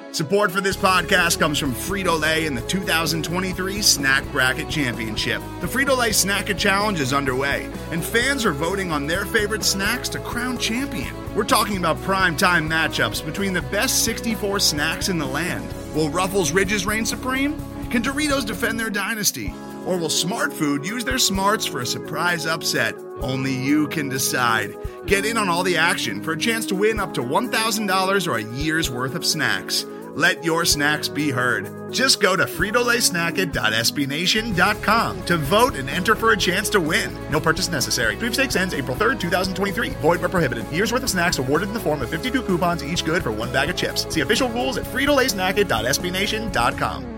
Support for this podcast comes from Frito-Lay and the 2023 Snack Bracket Championship. The Frito-Lay Snack-It Challenge is underway, and fans are voting on their favorite snacks to crown champion. We're talking about prime-time matchups between the best 64 snacks in the land. Will Ruffles Ridges reign supreme? Can Doritos defend their dynasty? Or will Smart Food use their smarts for a surprise upset? Only you can decide. Get in on all the action for a chance to win up to $1,000 or a year's worth of snacks. Let your snacks be heard. Just go to fritolaysnacket.sbnation.com to vote and enter for a chance to win. No purchase necessary. Sweepstakes ends April 3rd, 2023. Void where prohibited. Year's worth of snacks awarded in the form of 52 coupons, each good for one bag of chips. See official rules at fritolaysnacket.sbnation.com.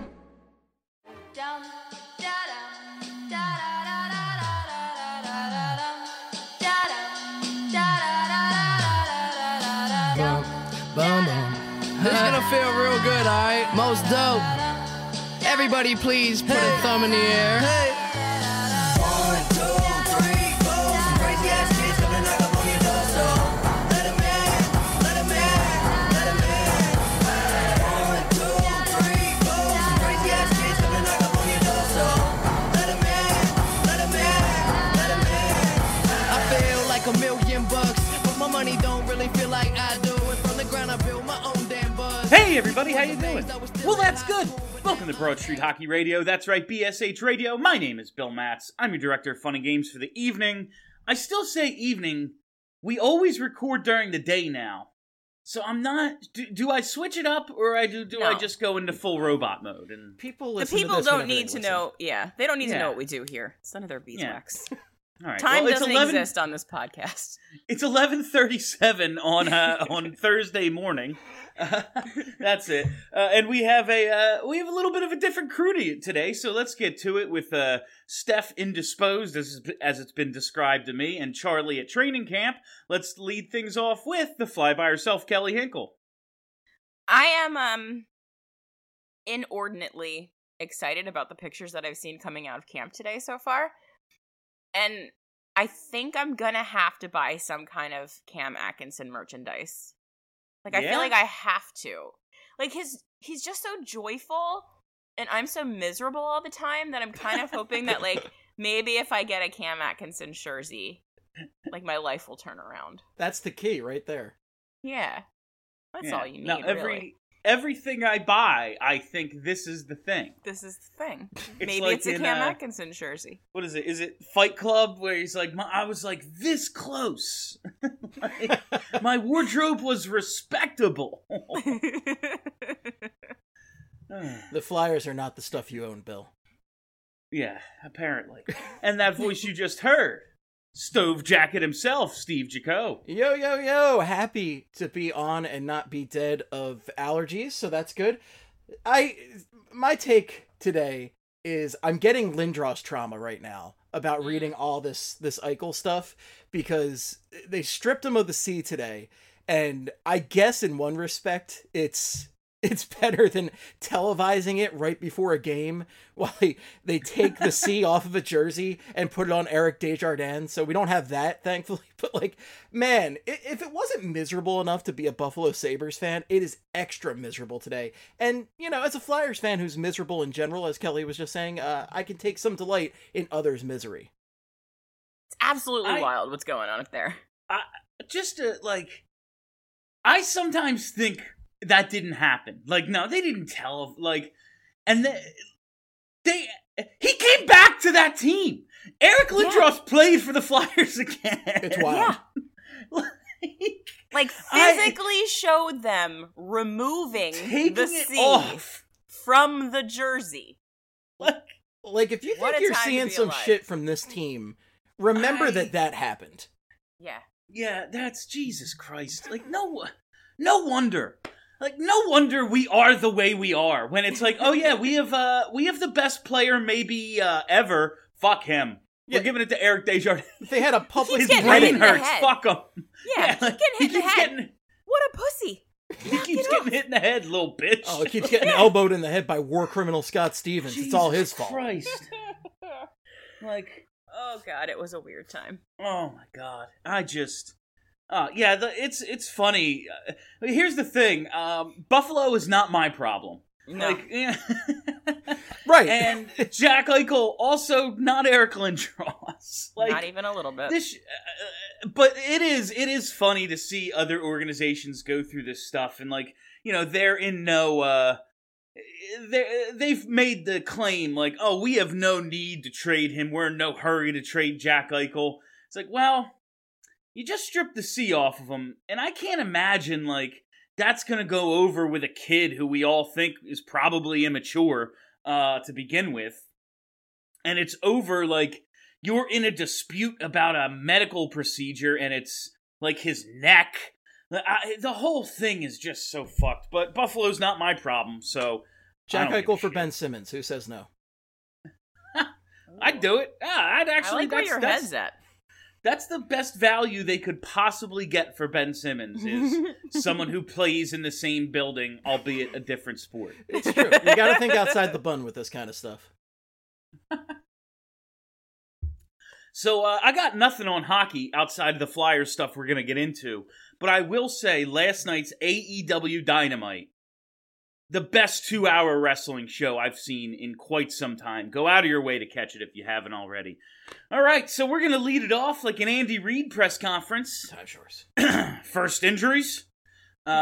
This is gonna feel real good, alright? Most dope. Everybody please put a thumb in the air. Hey. 1, 2, 3, 4. Some crazy ass kids come and knock up on your door, so let 'em in, let 'em in, let 'em in. 1, 2, 3, 4. Some crazy ass kids come and knock up on your door, so let 'em in, let 'em in, let 'em in. I feel like $1,000,000, but my money don't really feel like I do. And from the ground I build my own damn buzz. Hey everybody, how you doing? Well, that's good. Welcome to Broad Street Hockey Radio. That's right, BSH Radio. My name is Bill Matz. I'm your director of fun and games for the evening. I still say evening. We always record during the day now. So I'm not... Do I switch it up, or do No. I just go into full robot mode? And People The listen people to this don't whenever need they to listen. know. Yeah, they don't need to Yeah. know what we do here. It's none of their beeswax. all right. Time well, it's doesn't 11 exist on this podcast. It's 11:37 on Thursday morning. That's it, and we have a little bit of a different crew today. So let's get to it with Steph indisposed, as it's been described to me, and Charlie at training camp. Let's lead things off with the fly by herself, Kelly Hinkle. I am inordinately excited about the pictures that I've seen coming out of camp today so far. And I think I'm gonna have to buy some kind of Cam Atkinson merchandise. Like, I Yeah? feel like I have to. Like, he's just so joyful, and I'm so miserable all the time that I'm kind of hoping that, like, maybe if I get a Cam Atkinson jersey, like, my life will turn around. That's the key right there. Yeah. That's all you need, Now, really. everything I buy, I think this is the thing. This is the thing. It's Maybe like it's a in, Cam Atkinson jersey. What is it? Is it Fight Club, where he's like, I was like this close. Like, my wardrobe was respectable. The Flyers are not the stuff you own, Bill. Yeah, apparently. And that voice you just heard, Stove Jacket himself, Steve Jaco. Yo, yo, yo! Happy to be on and not be dead of allergies, so that's good. My take today is I'm getting Lindros trauma right now about reading all this Eichel stuff, because they stripped him of the C today, and I guess in one respect it's better than televising it right before a game while they take the C off of a jersey and put it on Eric Desjardins. So we don't have that, thankfully. But, like, man, if it wasn't miserable enough to be a Buffalo Sabres fan, it is extra miserable today. And, you know, as a Flyers fan who's miserable in general, as Kelly was just saying, I can take some delight in others' misery. It's absolutely wild what's going on up there. I sometimes think that didn't happen. Like, no, they didn't tell. Like, and he came back to that team. Eric Lindros played for the Flyers again. It's wild. Like, physically showed them removing taking the it C off from the jersey. Like, if you What think a you're time to seeing be some alive. shit from this team, remember that happened. Yeah. Yeah, that's Jesus Christ. Like, no wonder. Like, no wonder we are the way we are. When it's like, oh yeah, we have the best player maybe ever. Fuck him. Yeah. We're giving it to Eric Desjardins. They had a public His getting brain hit in the hurts. head. Fuck him. Yeah, like, he's getting hit in the head. Getting, What a pussy. he keeps getting hit in the head, little bitch. Oh, it keeps getting elbowed in the head by war criminal Scott Stevens. It's all his fault. Christ. Like, Oh, God, it was a weird time. oh my God. Yeah, it's funny. Here's the thing. Buffalo is not my problem. No. Like, yeah. Right. And Jack Eichel also not Eric Lindros. Like, Not even a little bit. But it is funny to see other organizations go through this stuff, and like, they're in no. They've made the claim like, oh, we have no need to trade him. We're in no hurry to trade Jack Eichel. It's like, well, you just stripped the C off of him, and I can't imagine like that's gonna go over with a kid who we all think is probably immature to begin with, and it's over like you're in a dispute about a medical procedure, and it's like his neck. The whole thing is just so fucked. But Buffalo's not my problem, so Jack I don't give Eichel a for shit. Ben Simmons. Who says no? I'd do it. I'd actually. I like where your head's at. That's the best value they could possibly get for Ben Simmons is someone who plays in the same building, albeit a different sport. It's true. You got to think outside the bun with this kind of stuff. So I got nothing on hockey outside of the Flyers stuff we're going to get into, but I will say last night's AEW Dynamite, the best 2-hour wrestling show I've seen in quite some time. Go out of your way to catch it if you haven't already. All right, so we're going to lead it off like an Andy Reid press conference. Time shorts. First injuries. You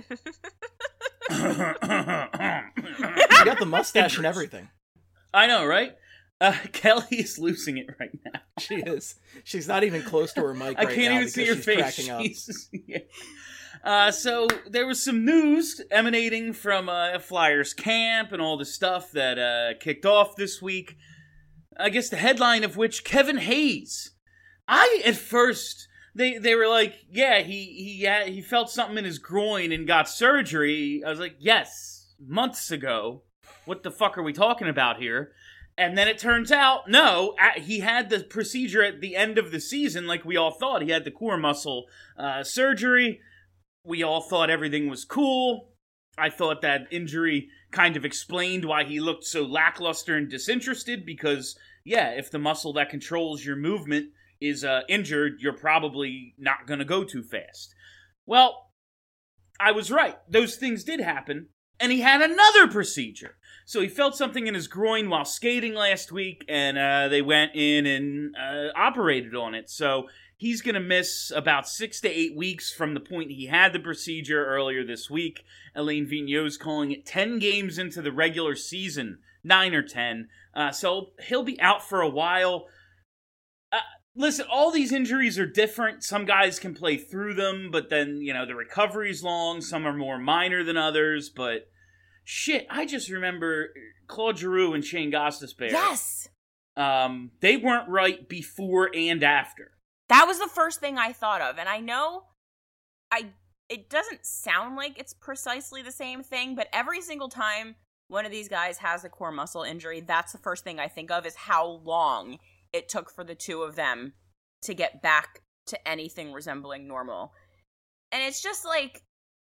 got the mustache and everything. I know, right? Kelly is losing it right now. She is. She's not even close to her mic I right can't now even see her because she's face. cracking up. Yeah. So there was some news emanating from Flyers camp and all the stuff that kicked off this week. I guess the headline of which, Kevin Hayes. At first, they were like, yeah, he felt something in his groin and got surgery. I was like, yes, months ago. What the fuck are we talking about here? And then it turns out, no, he had the procedure at the end of the season like we all thought. He had the core muscle surgery. We all thought everything was cool. I thought that injury kind of explained why he looked so lackluster and disinterested because, yeah, if the muscle that controls your movement is injured, you're probably not going to go too fast. Well, I was right. Those things did happen. And he had another procedure. So he felt something in his groin while skating last week, and they went in and operated on it. So he's going to miss about 6 to 8 weeks from the point he had the procedure earlier this week. Alain Vigneault's calling it 10 games into the regular season, 9 or 10. So he'll be out for a while. Listen, all these injuries are different. Some guys can play through them, but then, the recovery's long. Some are more minor than others, but shit, I just remember Claude Giroux and Shane Gostisbehere. Yes! They weren't right before and after. That was the first thing I thought of, and I know it doesn't sound like it's precisely the same thing, but every single time one of these guys has a core muscle injury, that's the first thing I think of is how long it took for the two of them to get back to anything resembling normal. And it's just like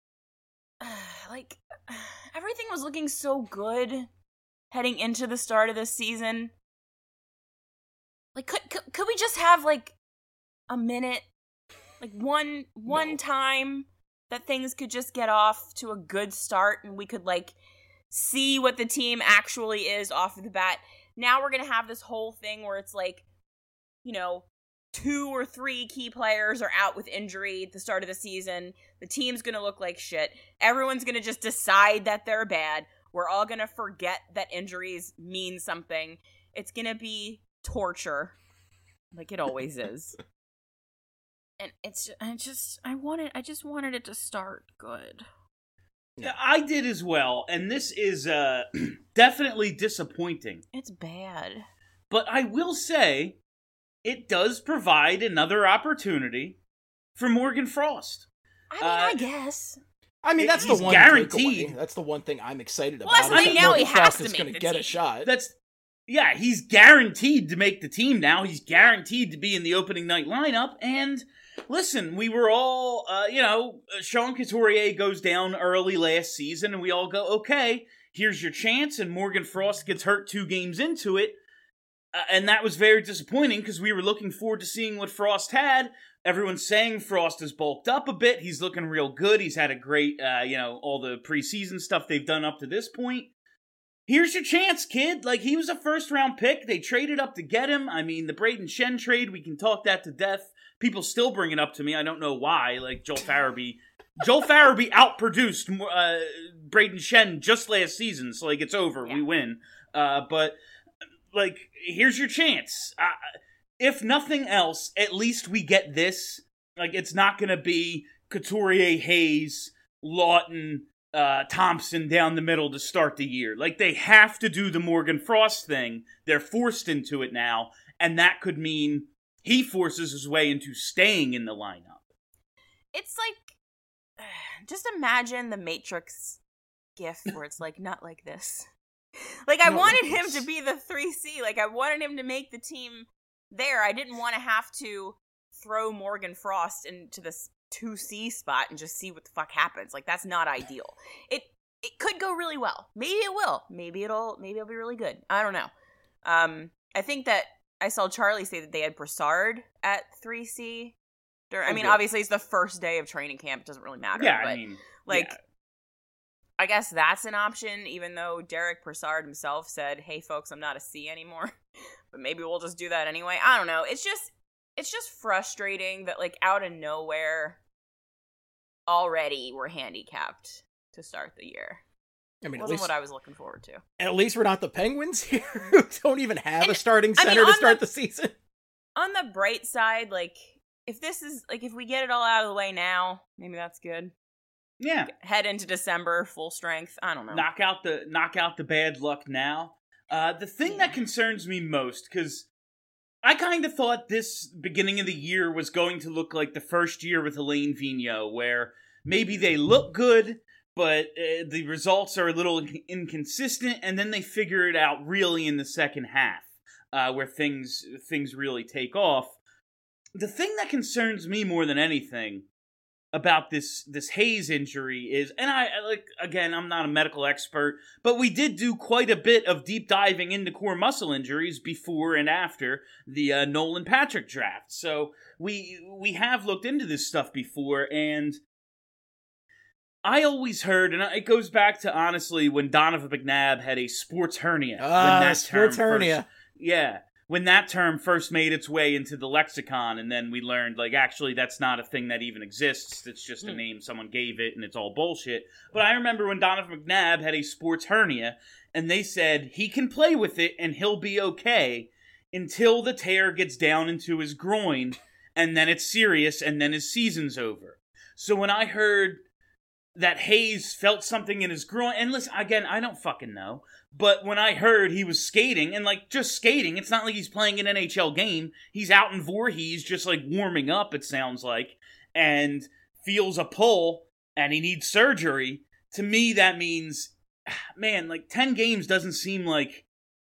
everything was looking so good heading into the start of this season. Like, could we just have, like, a minute? Like, one time that things could just get off to a good start and we could, like, see what the team actually is off of the bat. Now we're going to have this whole thing where it's like, 2 or 3 key players are out with injury at the start of the season. The team's going to look like shit. Everyone's going to just decide that they're bad. We're all going to forget that injuries mean something. It's going to be torture, like it always is. And I just wanted it to start good. Yeah, I did as well, and this is definitely disappointing. It's bad. But I will say, it does provide another opportunity for Morgan Frost. I guess. I mean, that's He's the one guaranteed. takeaway. That's the one thing I'm excited about. Well, that's is the that thing, now he Morgan has Frost to is make gonna the get a team. shot. He's guaranteed to make the team now. He's guaranteed to be in the opening night lineup. And listen, we were all, Sean Couturier goes down early last season, and we all go, okay, here's your chance. And Morgan Frost gets hurt 2 games into it. And that was very disappointing because we were looking forward to seeing what Frost had. Everyone's saying Frost has bulked up a bit. He's looking real good. He's had a great, all the preseason stuff they've done up to this point. Here's your chance, kid. Like, he was a first-round pick. They traded up to get him. I mean, the Braden Shen trade, we can talk that to death. People still bring it up to me. I don't know why. Like, Joel Farabee outproduced Braden Shen just last season. So, like, it's over. Yeah. We win. But, like, here's your chance. If nothing else, at least we get this. Like, it's not going to be Couturier, Hayes, Lawton, Thompson down the middle to start the year. Like, they have to do the Morgan Frost thing. They're forced into it now. And that could mean he forces his way into staying in the lineup. It's like, just imagine the Matrix gif where it's like, not like this. Like, I wanted him to be the 3C. Like, I wanted him to make the team there. I didn't want to have to throw Morgan Frost into this 2C spot and just see what the fuck happens. Like, that's not ideal. It could go really well. Maybe it will. Maybe it'll be really good. I don't know. I think that I saw Charlie say that they had Brassard at 3C. I mean, obviously it's the first day of training camp. It doesn't really matter. Yeah, but, I mean, I guess that's an option, even though Derek Brassard himself said, hey, folks, I'm not a C anymore. But maybe we'll just do that anyway. I don't know. It's just frustrating that, like, out of nowhere, already we're handicapped to start the year. I mean, it wasn't what I was looking forward to. At least we're not the Penguins here, who don't even have a starting center to start the season. On the bright side, like, if we get it all out of the way now, maybe that's good. Yeah. Head into December, full strength. I don't know. Knock out the bad luck now. The thing that concerns me most, because I kind of thought this beginning of the year was going to look like the first year with Alain Vigneault, where maybe they look good, but the results are a little inconsistent, and then they figure it out really in the second half, where things really take off. The thing that concerns me more than anything about this Hayes injury is, and I'm not a medical expert, but we did do quite a bit of deep diving into core muscle injuries before and after the Nolan Patrick draft. So we have looked into this stuff before, and I always heard, and it goes back to, honestly, when Donovan McNabb had a sports hernia. Sports hernia. When that term first made its way into the lexicon, and then we learned, like, actually, that's not a thing that even exists. It's just a name someone gave it, and it's all bullshit. But I remember when Donovan McNabb had a sports hernia, and they said he can play with it, and he'll be okay until the tear gets down into his groin, and then it's serious, and then his season's over. So when I heard that Hayes felt something in his groin, and listen, again, I don't fucking know, but when I heard he was skating, and, like, just skating, it's not like he's playing an NHL game. He's out in Voorhees just, like, warming up, it sounds like, and feels a pull, and he needs surgery. To me, that means, man, like, 10 games doesn't seem like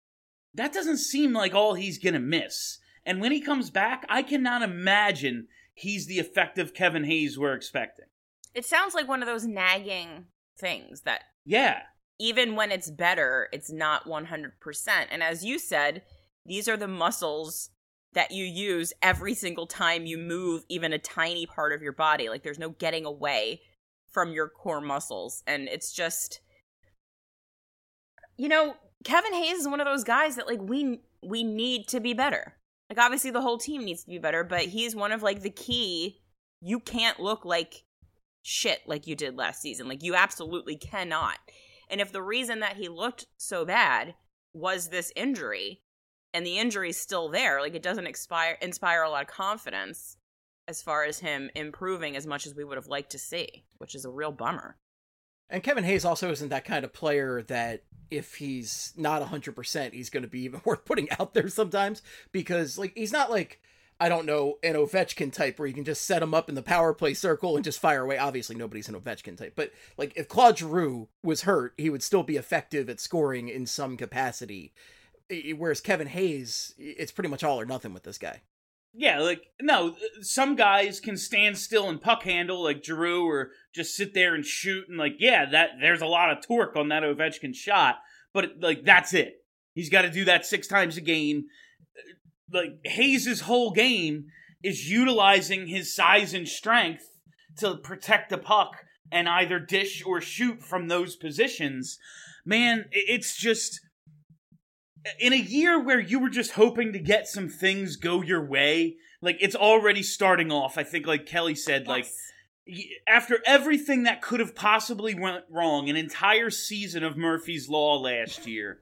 all he's gonna miss. And when he comes back, I cannot imagine he's the effective Kevin Hayes we're expecting. It sounds like one of those nagging things that... Yeah. Even when it's better, it's not 100%. And as you said, these are the muscles that you use every single time you move even a tiny part of your body. Like, there's no getting away from your core muscles. And it's just... Kevin Hayes is one of those guys that, like, we need to be better. Like, obviously the whole team needs to be better, but he's one of, like, the key... You can't look like shit like you did last season. Like, you absolutely cannot. And if the reason that he looked so bad was this injury, and the injury's still there, like, it doesn't inspire a lot of confidence as far as him improving as much as we would have liked to see, which is a real bummer. And Kevin Hayes also isn't that kind of player that if he's not 100%, he's going to be even worth putting out there sometimes, because, like, he's not like, I don't know, an Ovechkin type where you can just set him up in the power play circle and just fire away. Obviously, nobody's an Ovechkin type. But, like, if Claude Giroux was hurt, he would still be effective at scoring in some capacity. Whereas Kevin Hayes, it's pretty much all or nothing with this guy. Yeah, like, no, some guys can stand still and puck handle, like Giroux, or just sit there and shoot. And, like, yeah, there's a lot of torque on that Ovechkin shot. But, like, that's it. He's got to do that 6 times a game. Like, Hayes' whole game is utilizing his size and strength to protect the puck and either dish or shoot from those positions. Man, it's just, in a year where you were just hoping to get some things go your way, like, it's already starting off. I think, like Kelly said, like, after everything that could have possibly went wrong, an entire season of Murphy's Law last year,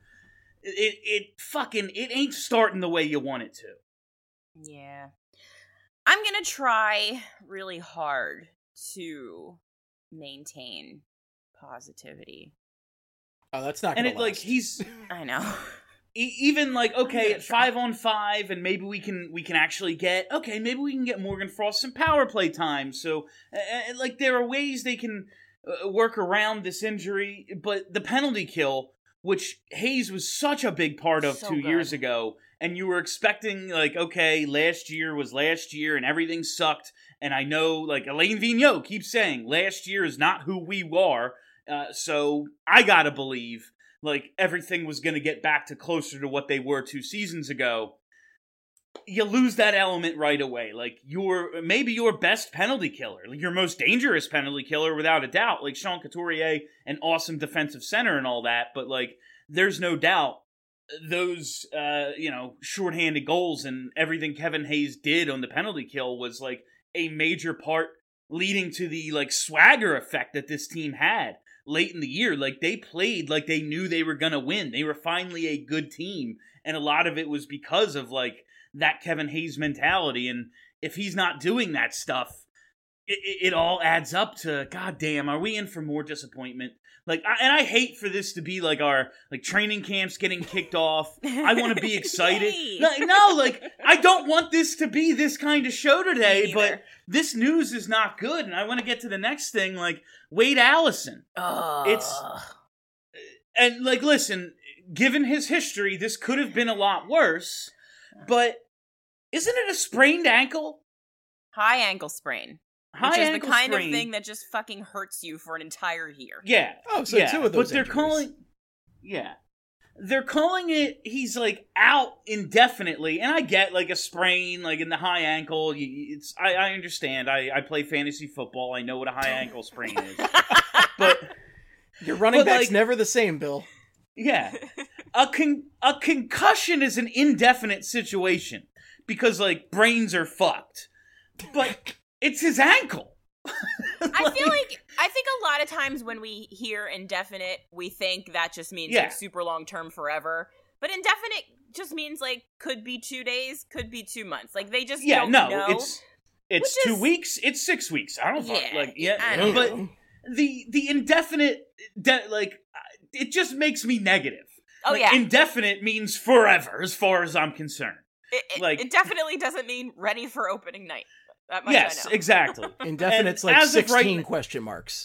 it ain't starting the way you want it to. Yeah. I'm gonna try really hard to maintain positivity. Oh, that's not And gonna it, like, last. he's... I know. Even like, okay, at try. 5-on-5, and maybe we can actually get Morgan Frost some power play time. So, like, there are ways they can work around this injury, but the penalty kill, which Hayes was such a big part of So 2 good. years ago, and you were expecting, like, okay, last year was last year, and everything sucked. And I know, like, Alain Vigneault keeps saying last year is not who we are. So I gotta believe, like, everything was going to get back to closer to what they were 2 seasons ago. You lose that element right away. Like, maybe your best penalty killer, like your most dangerous penalty killer without a doubt, like Sean Couturier, an awesome defensive center and all that, but, like, there's no doubt those, shorthanded goals and everything Kevin Hayes did on the penalty kill was, like, a major part leading to the, like, swagger effect that this team had late in the year. Like, they played like they knew they were gonna win. They were finally a good team, and a lot of it was because of, like, that Kevin Hayes mentality. And if he's not doing that stuff, it all adds up to, God damn, are we in for more disappointment? Like, I hate for this to be like our, like, training camps getting kicked off. I want to be excited. Yay. No, like, I don't want this to be this kind of show today, Me but either. this news is not good, and I want to get to the next thing, like, Wade Allison. And, like, listen, given his history, this could have been a lot worse, but isn't it a sprained ankle? High ankle sprain. High Which is the ankle kind sprain. of thing that just fucking hurts you for an entire year. Yeah. Oh, so yeah, 2 of those but they're injuries. calling... Yeah. They're calling it, he's, like, out indefinitely, and I get, like, a sprain, like, in the high ankle. I understand. I play fantasy football. I know what a high ankle sprain is. But... Your running But, back's like- never the same, Bill. Yeah. A concussion is an indefinite situation because, like, brains are fucked. But it's his ankle. I think a lot of times when we hear indefinite, we think that just means Yeah. like super long term forever. But indefinite just means like could be 2 days, could be 2 months. Like they just don't know. it's Which 2 is- weeks, it's 6 weeks. I don't fuck, Yeah, like, yeah, I don't but know. the indefinite, it just makes me negative. Oh Like, yeah, indefinite means forever, as far as I'm concerned. like- it definitely doesn't mean ready for opening night. That much Yes, I know. exactly. Indefinite's And like as of 16 right- question marks.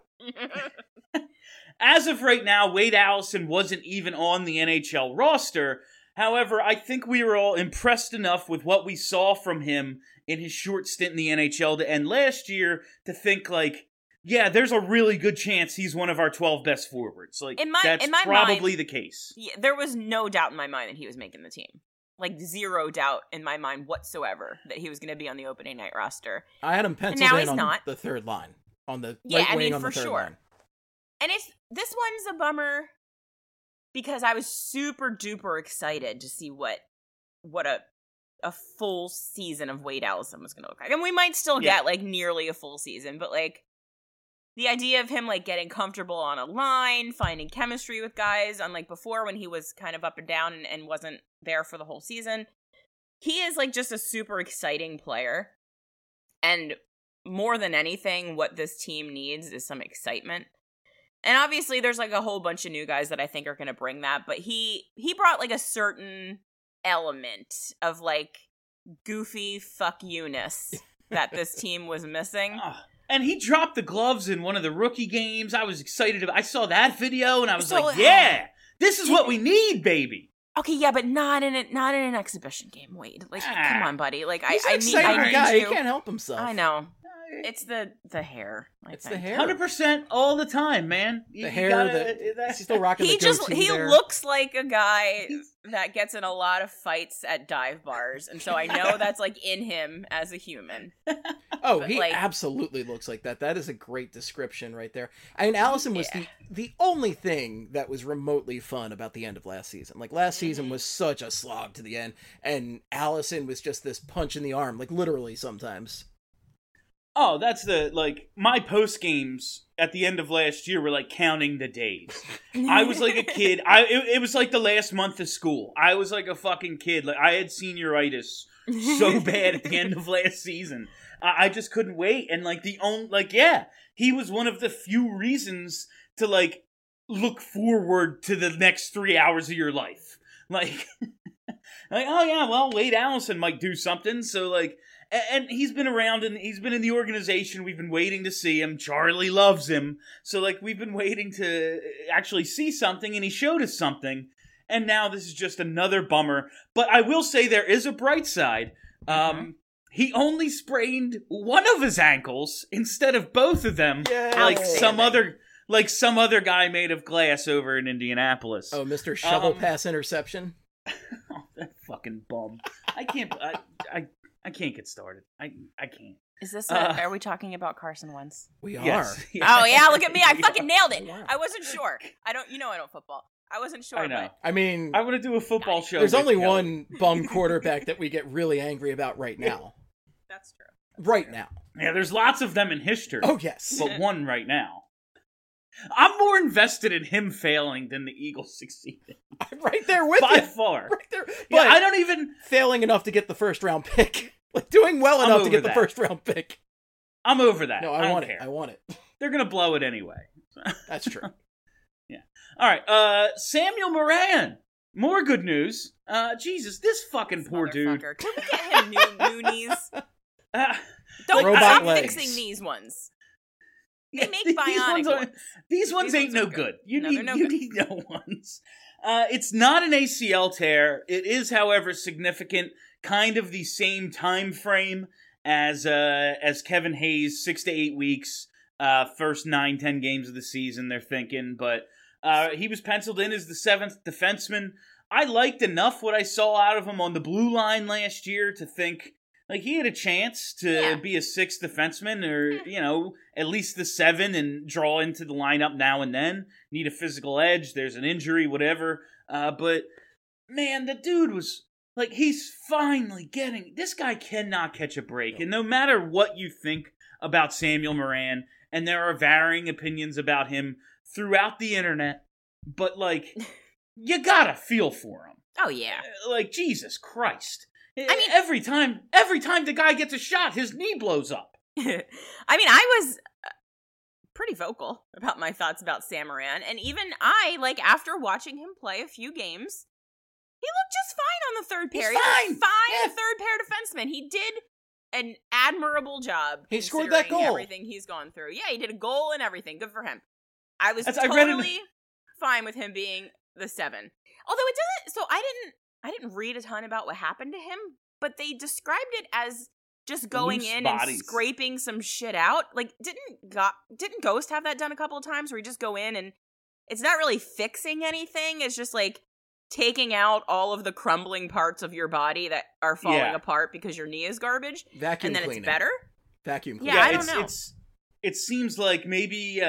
As of right now, Wade Allison wasn't even on the NHL roster. However, I think we were all impressed enough with what we saw from him in his short stint in the NHL to end last year to think, like, yeah, there's a really good chance he's one of our 12 best forwards. Like, In my that's probably the case. Yeah, there was no doubt in my mind that he was making the team. Like zero doubt in my mind whatsoever that he was going to be on the opening night roster. I had him penciled now in he's on not. the third line. On the Yeah, right I wing mean, on the for third sure. line. And this one's a bummer because I was super duper excited to see what a full season of Wade Allison was going to look like. And we might still Yeah. get like nearly a full season, but like the idea of him like getting comfortable on a line, finding chemistry with guys, unlike before when he was kind of up and down and wasn't there for the whole season. He is like just a super exciting player. And more than anything, what this team needs is some excitement. And obviously there's like a whole bunch of new guys that I think are going to bring that, but he brought like a certain element of like goofy fuck you-ness that this team was missing. Ah, and he dropped the gloves in one of the rookie games. I was excited. I saw that video and I was So, like, yeah, this is what we need, baby. Okay, yeah, but not in an exhibition game, Wade. Like, come on, buddy. Like, He's an I exciting need guy. you. He can't help himself. I know. It's the hair. I It's think. the hair. 100% all the time, man. The hair, he's still rocking He the goatee he there. looks like a guy that gets in a lot of fights at dive bars, and so I know that's like in him as a human. Oh, But, he like- absolutely looks like that. That is a great description right there. I mean, Allison was the only thing that was remotely fun about the end of last season. Like, last season was such a slog to the end, and Allison was just this punch in the arm, like, literally sometimes. Oh, that's my post games at the end of last year were like counting the days. I was like a kid. It was like the last month of school. I was like a fucking kid. Like, I had senioritis so bad at the end of last season. I just couldn't wait. And like he was one of the few reasons to like look forward to the next 3 hours of your life. Like, oh yeah, well, Wade Allison might do something. So like, and he's been around and he's been in the organization. We've been waiting to see him. Charlie loves him. So like, we've been waiting to actually see something, and he showed us something. And now this is just another bummer. But I will say there is a bright side. He only sprained one of his ankles instead of both of them, like some other guy made of glass over in Indianapolis. Oh, Mr. Shovel Pass interception. Oh, that fucking bum! I can't get started. I can't. Is this? Are we talking about Carson Wentz? We are. Yes. Oh yeah, look at me! I We fucking are. nailed it. Wow. I wasn't sure. I don't football. I wasn't sure. I know. But I mean, I want to do a football show. there's with only Kelly. one bum quarterback that we get really angry about right now. that's true. Right now. Yeah, there's lots of them in history. Oh, yes. But one right now. I'm more invested in him failing than the Eagles succeeding. I'm right there with By you. far. Right there. But Yeah, I don't even... failing enough to get the first round pick. Like, doing well I'm enough to over get the that. first round pick. I'm over that. No, I I don't want care. it. I want it. They're going to blow it anyway. That's true. All right, Samuel Moran. More good news. Jesus, this fucking poor dude. Motherfucker. Can we get him new knees? Don't Robot stop legs. fixing these ones. Yeah, They make these bionic ones. These ones ain't ones no are good. good. You No, need they're no you good. need no ones. It's not an ACL tear. It is, however, significant. Kind of the same time frame as Kevin Hayes, 6 to 8 weeks. First 9-10 games of the season. They're thinking, but he was penciled in as the 7th defenseman. I liked enough what I saw out of him on the blue line last year to think like he had a chance to be a 6th defenseman, or at least the 7 and draw into the lineup now and then. Need a physical edge. There's an injury, whatever. But man, the dude was like, he's finally getting. This guy cannot catch a break, and no matter what you think about Samuel Moran, and there are varying opinions about him throughout the internet, but like, you gotta feel for him. Oh yeah. Like, Jesus Christ. I mean- every time the guy gets a shot, his knee blows up. I mean, I was pretty vocal about my thoughts about Sam Moran, and even I, like, after watching him play a few games, he looked just fine on the third pair. He's He was fine. fine, Yeah. third pair defenseman. He did an admirable job. He scored that considering goal. Everything he's gone through. Yeah, he did a goal and everything. Good for him. I was I read in- totally fine with him being the 7. Although it doesn't. So I didn't read a ton about what happened to him, but they described it as just going Loose in bodies. and scraping some shit out. Like, didn't Ghost have that done a couple of times where you just go in and it's not really fixing anything. It's just like taking out all of the crumbling parts of your body that are falling Yeah. apart because your knee is garbage, Vacuum and then cleaning. it's better. Vacuum Yeah, cleaning. I don't know. It seems like maybe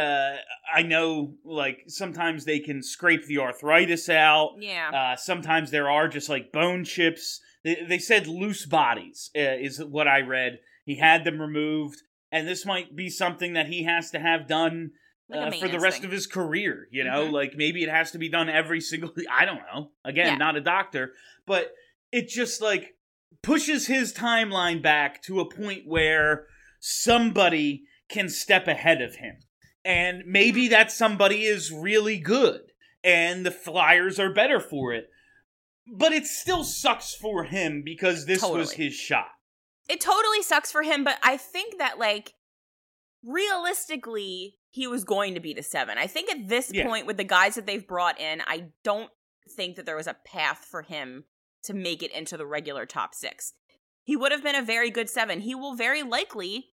I know, like, sometimes they can scrape the arthritis out. Yeah. Sometimes there are just like bone chips. They said loose bodies is what I read. He had them removed, and this might be something that he has to have done Like a for the maintenance rest thing. of his career. You know, Mhm. like maybe it has to be done every single. I don't know. Again, Yeah. not a doctor, but it just like pushes his timeline back to a point where somebody can step ahead of him. And maybe that somebody is really good, and the Flyers are better for it. But it still sucks for him because this was Totally. his shot. It totally sucks for him, but I think that, like, realistically, he was going to be the 7. I think at this Yeah. point, with the guys that they've brought in, I don't think that there was a path for him to make it into the regular top 6. He would have been a very good 7. He will very likely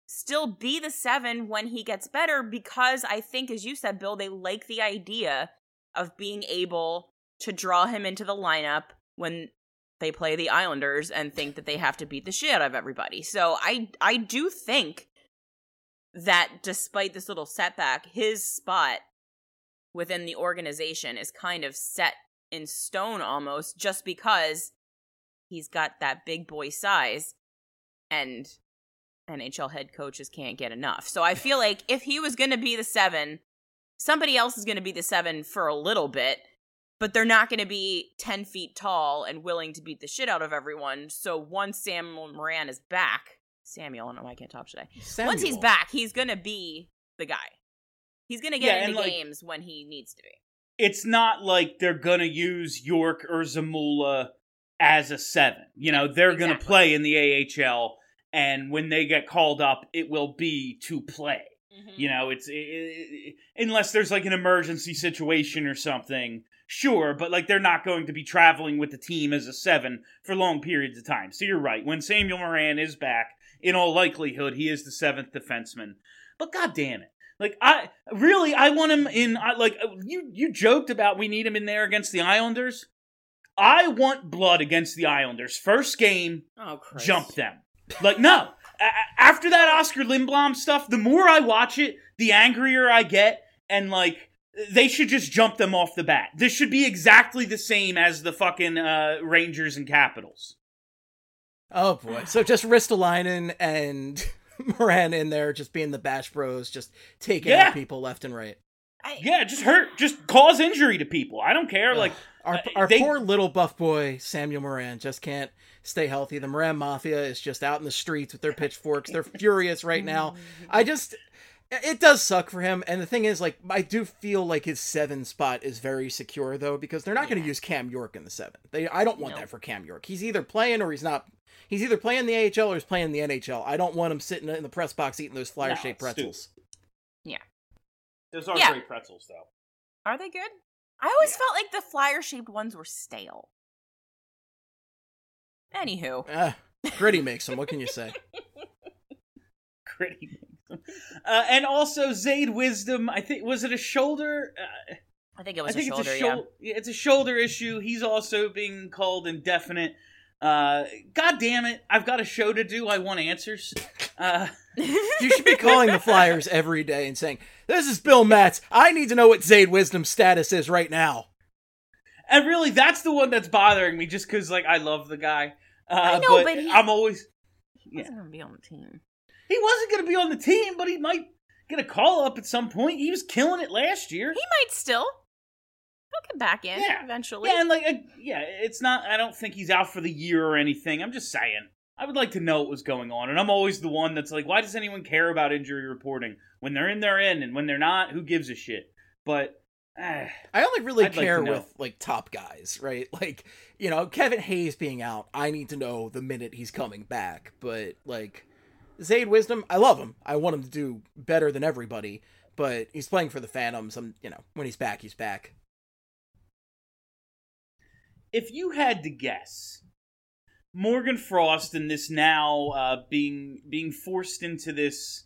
still be the 7 when he gets better, because I think, as you said, Bill, they like the idea of being able to draw him into the lineup when they play the Islanders and think that they have to beat the shit out of everybody. So I do think that despite this little setback, his spot within the organization is kind of set in stone almost, just because he's got that big boy size and NHL head coaches can't get enough. So I feel like if he was going to be the 7, somebody else is going to be the 7 for a little bit, but they're not going to be 10 feet tall and willing to beat the shit out of everyone. So once Samuel Morin is back, Samuel, I don't know why I can't talk today. Samuel. Once he's back, he's going to be the guy. He's going to get into games when he needs to be. It's not like they're going to use York or Zamula as a 7. You know, they're going to play in the AHL, and when they get called up, it will be to play. Mm-hmm. You know, unless there's like an emergency situation or something, sure, but like they're not going to be traveling with the team as a 7 for long periods of time. So you're right. When Samuel Morin is back, in all likelihood, he is the 7th defenseman. But god damn it. Like, I want him in, you joked about we need him in there against the Islanders. I want blood against the Islanders. First game, jump them. Like, no. After that Oscar Lindblom stuff, the more I watch it, the angrier I get, and, like, they should just jump them off the bat. This should be exactly the same as the fucking Rangers and Capitals. Oh, boy. So just Ristolainen and Morin in there, just being the Bash Bros, just taking out people left and right. Just cause injury to people. I don't care. Like our poor little buff boy Samuel Morin just can't stay healthy. The Morin Mafia is just out in the streets with their pitchforks. They're furious right now. It does suck for him. And the thing is, like, I do feel like his 7 spot is very secure though, because they're not going to use Cam York in the 7. I don't want that for Cam York. He's either playing or he's not. He's either playing the AHL or he's playing the NHL. I don't want him sitting in the press box eating those flyer-shaped pretzels. Stupid. Yeah. Those are great pretzels, though. Are they good? I always felt like the flyer-shaped ones were stale. Anywho. Gritty makes them. What can you say? Gritty makes them. And also, Zayd Wisdom, I think, was it a shoulder? I think it was a shoulder, yeah. It's a shoulder issue. He's also being called indefinite. God damn it. I've got a show to do. I want answers. You should be calling the Flyers every day and saying, "This is Bill Matz. I need to know what Zayd Wisdom's status is right now." And really, that's the one that's bothering me, just because, like, I love the guy. I know, but I'm always... He wasn't going to be on the team. He wasn't going to be on the team, but he might get a call-up at some point. He was killing it last year. He might still. He'll get back in eventually. Yeah, and it's not... I don't think he's out for the year or anything. I'm just saying. I would like to know what was going on, and I'm always the one that's like, why does anyone care about injury reporting? When they're in, they're in, and when they're not, who gives a shit? But... I only really care with, like, top guys, right? Like, you know, Kevin Hayes being out, I need to know the minute he's coming back. But, like, Zayd Wisdom, I love him. I want him to do better than everybody. But he's playing for the Phantoms. When he's back, he's back. If you had to guess, Morgan Frost and this now being forced into this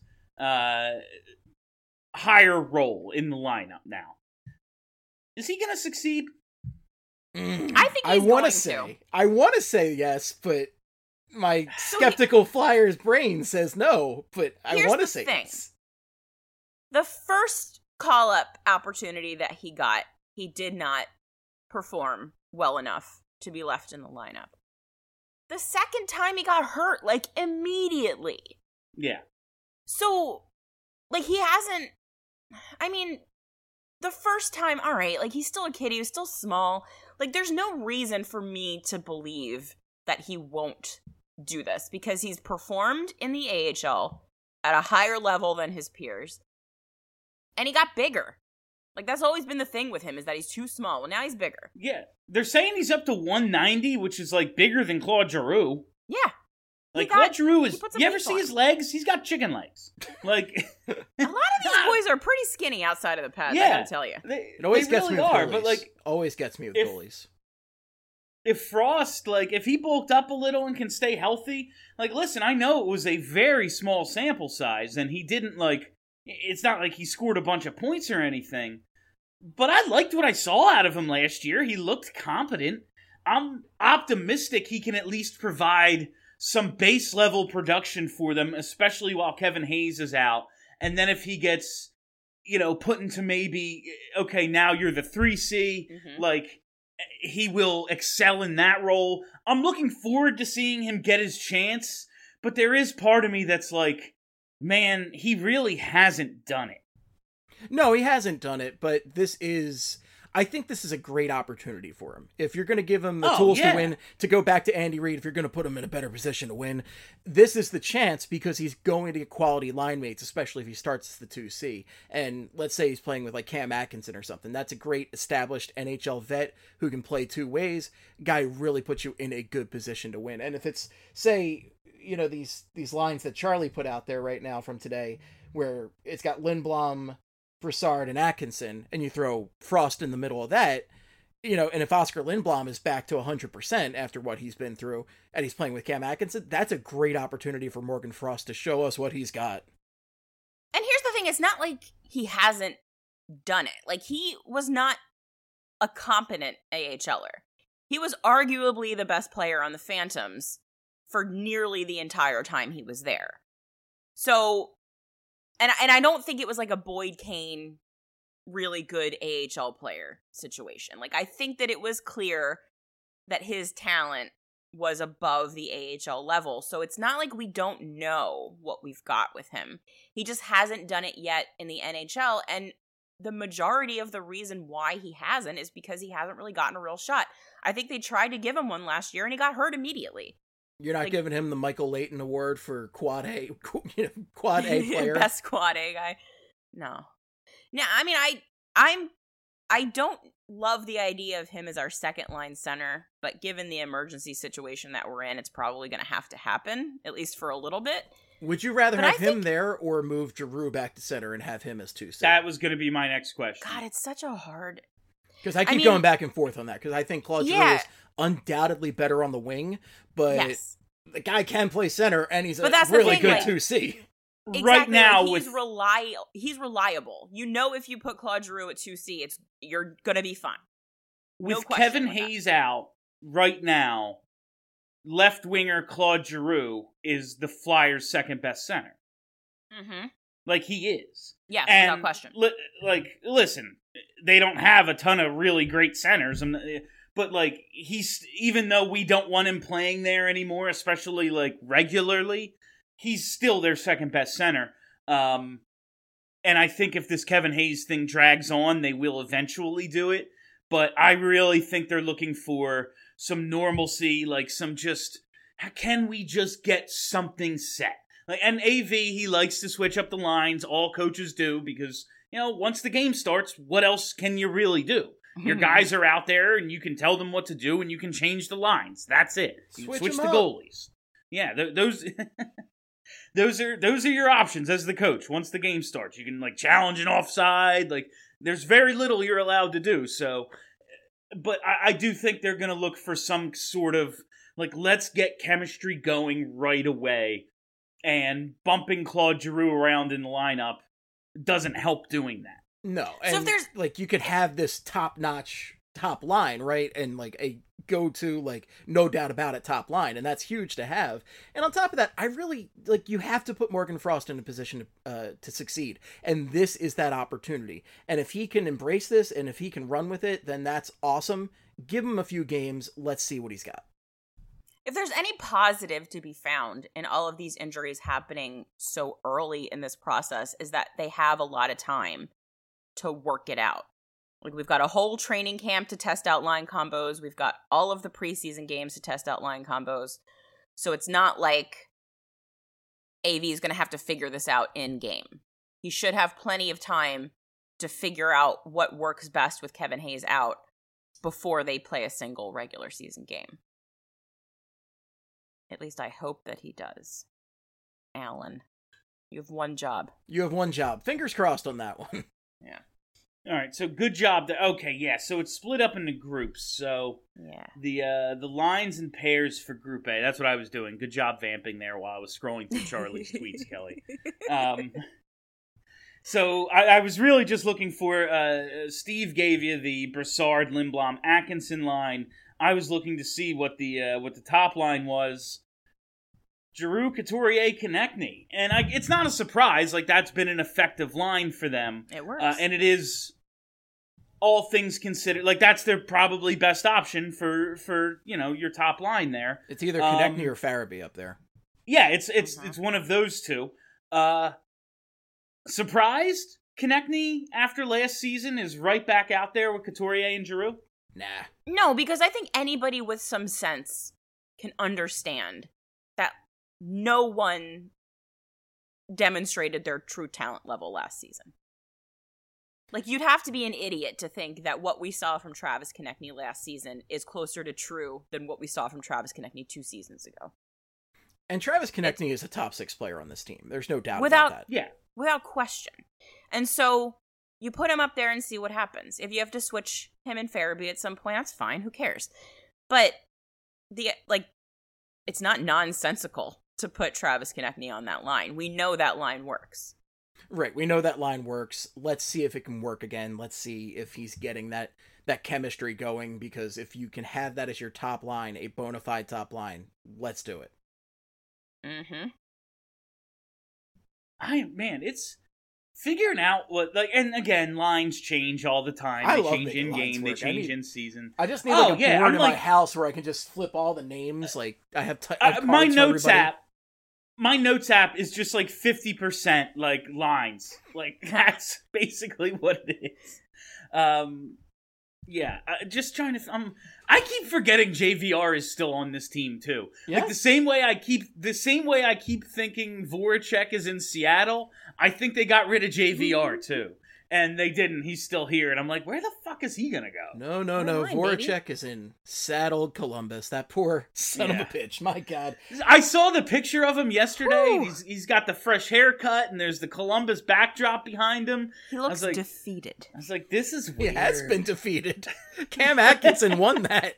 higher role in the lineup now, is he going to succeed? I think he's going to. I want to say yes, but my skeptical Flyers brain says no, but I want to say yes. The first call-up opportunity that he got, he did not perform well enough to be left in the lineup. The second time he got hurt, like, immediately. Yeah. So, like, he hasn't... I mean... The first time, all right, like, he's still a kid, he was still small. Like, there's no reason for me to believe that he won't do this, because he's performed in the AHL at a higher level than his peers. And he got bigger. Like, that's always been the thing with him, is that he's too small. Well, now he's bigger. Yeah. They're saying he's up to 190, which is, like, bigger than Claude Giroux. Yeah. Like, Claude Giroux is... You ever see his legs? He's got chicken legs. Like... A lot of these boys are pretty skinny outside of the pads, I gotta tell you. It always gets me with goalies. But, like... Always gets me with goalies. if Frost, like, if he bulked up a little and can stay healthy, like, listen, I know it was a very small sample size, and he didn't, like, it's not like he scored a bunch of points or anything, but I liked what I saw out of him last year. He looked competent. I'm optimistic he can at least provide some base level production for them, especially while Kevin Hayes is out. And then if he gets, put into maybe, okay, now you're the 3C, like, he will excel in that role. I'm looking forward to seeing him get his chance, but there is part of me that's like, man, he really hasn't done it. No, he hasn't done it, but I think this is a great opportunity for him. If you're going to give him the tools to win, to go back to Andy Reid, if you're going to put him in a better position to win, this is the chance because he's going to get quality line mates, especially if he starts as the 2C. And let's say he's playing with like Cam Atkinson or something. That's a great established NHL vet who can play two ways. Guy really puts you in a good position to win. And if it's, say, these lines that Charlie put out there right now from today, where it's got Lindblom, Brassard, and Atkinson, and you throw Frost in the middle of that, and if Oscar Lindblom is back to 100% after what he's been through, and he's playing with Cam Atkinson, that's a great opportunity for Morgan Frost to show us what he's got. And here's the thing, it's not like he hasn't done it. Like, he was not a competent AHLer. He was arguably the best player on the Phantoms for nearly the entire time he was there. So, and I don't think it was like a Boyd Kane really good AHL player situation. Like, I think that it was clear that his talent was above the AHL level. So it's not like we don't know what we've got with him. He just hasn't done it yet in the NHL. And the majority of the reason why he hasn't is because he hasn't really gotten a real shot. I think they tried to give him one last year and he got hurt immediately. You're not giving him the Michael Leighton Award for quad A player. Best quad A guy. No. I mean, I don't love the idea of him as our second line center, but given the emergency situation that we're in, it's probably going to have to happen, at least for a little bit. Would you rather have him there or move Giroux back to center and have him as 2C? That was going to be my next question. God, it's such a hard... Because I keep going back and forth on that, because I think Claude Giroux is undoubtedly better on the wing, but the guy can play center, and he's a really good 2C. Exactly. Right now, he's reliable. If you put Claude Giroux at 2C, you're gonna be fine. With Kevin Hayes out right now, left winger Claude Giroux is the Flyers' second best center. Mm-hmm. Like, he is. Yes, and without question. Listen, they don't have a ton of really great centers, but he's, even though we don't want him playing there anymore, especially regularly, he's still their second best center. And I think if this Kevin Hayes thing drags on, they will eventually do it. But I really think they're looking for some normalcy, can we just get something set? And AV, he likes to switch up the lines. All coaches do, because, once the game starts, what else can you really do? Your guys are out there, and you can tell them what to do, and you can change the lines. That's it. You switch the goalies. Yeah, those those are your options as the coach. Once the game starts, you can challenge an offside. There's very little you're allowed to do. So, but I do think they're going to look for some sort of let's get chemistry going right away. And bumping Claude Giroux around in the lineup doesn't help doing that. No, and so if there's you could have this top-notch top line, right? And a go-to, no doubt about it, top line, and that's huge to have. And on top of that, I really you have to put Morgan Frost in a position to succeed, and this is that opportunity. And if he can embrace this, and if he can run with it, then that's awesome. Give him a few games. Let's see what he's got. If there's any positive to be found in all of these injuries happening so early in this process, is that they have a lot of time to work it out. We've got a whole training camp to test out line combos. We've got all of the preseason games to test out line combos. So it's not like AV is going to have to figure this out in game. He should have plenty of time to figure out what works best with Kevin Hayes out before they play a single regular season game. At least I hope that he does. Alan, you have one job. You have one job. Fingers crossed on that one. Yeah. All right, so good job. Okay, yeah, so it's split up into groups. So Yeah. the lines and pairs for Group A. That's what I was doing. Good job vamping there while I was scrolling through Charlie's tweets, Kelly. So I was really just looking for. Steve gave you the Brassard, Lindblom, Atkinson line. I was looking to see what the top line was. Giroux, Couturier, Konechny. And it's not a surprise. Like, that's been an effective line for them. It works. And it is, all things considered, like, that's their probably best option for your top line there. It's either Konechny or Farabee up there. Yeah, it's one of those two. Surprised Konechny, after last season, is right back out there with Couturier and Giroux? Nah. No, because I think anybody with some sense can understand that no one demonstrated their true talent level last season. Like, you'd have to be an idiot to think that what we saw from Travis Konechny last season is closer to true than what we saw from Travis Konechny 2 seasons ago. And Travis Konechny is a top 6 player on this team. There's no doubt about that. Yeah. Without question. And so you put him up there and see what happens. If you have to switch him and Farabee at some point, that's fine. Who cares? But it's not nonsensical to put Travis Konechny on that line. We know that line works. Right, we know that line works. Let's see if it can work again. Let's see if he's getting that chemistry going, because if you can have that as your top line, a bona fide top line, let's do it. Mm-hmm. It's figuring out what, like, and again, lines change all the time. I They love change making in lines game, they work. change in season. I just need a board in I'm my house where I can just flip all the names. Like, I have, I have my cards for notes everybody. app. My notes app is just like 50% like lines. Like, that's basically what it is. Just trying to. I keep forgetting JVR is still on this team too. Yeah. Like the same way I keep thinking Voracek is in Seattle. I think they got rid of JVR too, and they didn't. He's still here, and I'm like, where the fuck is he gonna go? No. Never mind, Voracek is in saddled Columbus. That poor son of Yeah. a bitch. My God. I saw the picture of him yesterday. Whew. He's got the fresh haircut, and there's the Columbus backdrop behind him. He looks like- defeated. I was like, this is He weird. has been defeated. Cam Atkinson won that.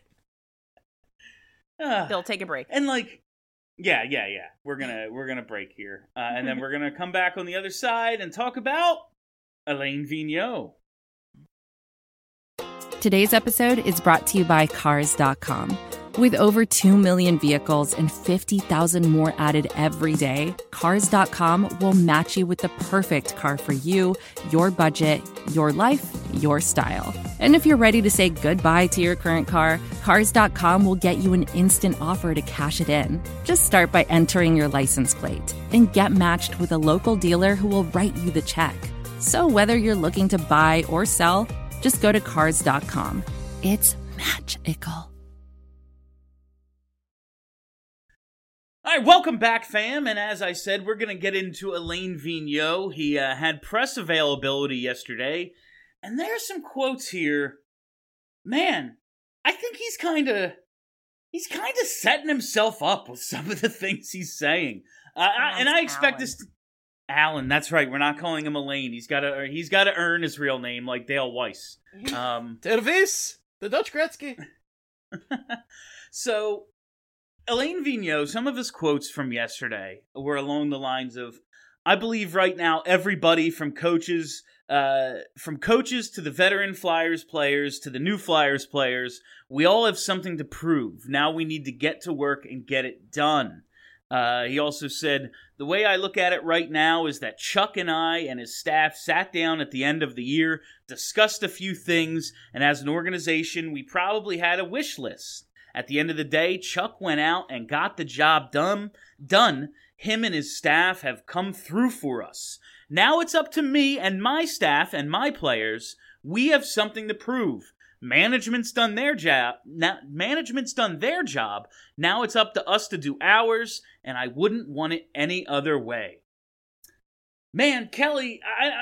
Bill, take a break. And like, yeah. We're gonna break here, and then we're gonna come back on the other side and talk about Alain Vigneault. Today's episode is brought to you by Cars.com. With over 2 million vehicles and 50,000 more added every day, Cars.com will match you with the perfect car for you, your budget, your life, your style. And if you're ready to say goodbye to your current car, Cars.com will get you an instant offer to cash it in. Just start by entering your license plate and get matched with a local dealer who will write you the check. So whether you're looking to buy or sell, just go to Cars.com. It's magical. All right, welcome back, fam. And as I said, we're going to get into Alain Vigneault. He had press availability yesterday, and there's some quotes here. Man, I think he's kind of setting himself up with some of the things he's saying. And I expect this to... Alan, that's right. We're not calling him Alain. He's got to earn his real name, like Dale Weiss. Tervis, the Dutch Gretzky. So, Alain Vigneault, some of his quotes from yesterday were along the lines of, I believe right now everybody from coaches to the veteran Flyers players to the new Flyers players, we all have something to prove. Now we need to get to work and get it done. He also said, the way I look at it right now is that Chuck and I and his staff sat down at the end of the year, discussed a few things, and as an organization, we probably had a wish list. At the end of the day, Chuck went out and got the job done. Him and his staff have come through for us. Now it's up to me and my staff and my players. We have something to prove. Management's done their job. Now it's up to us to do ours, and I wouldn't want it any other way. Man, Kelly,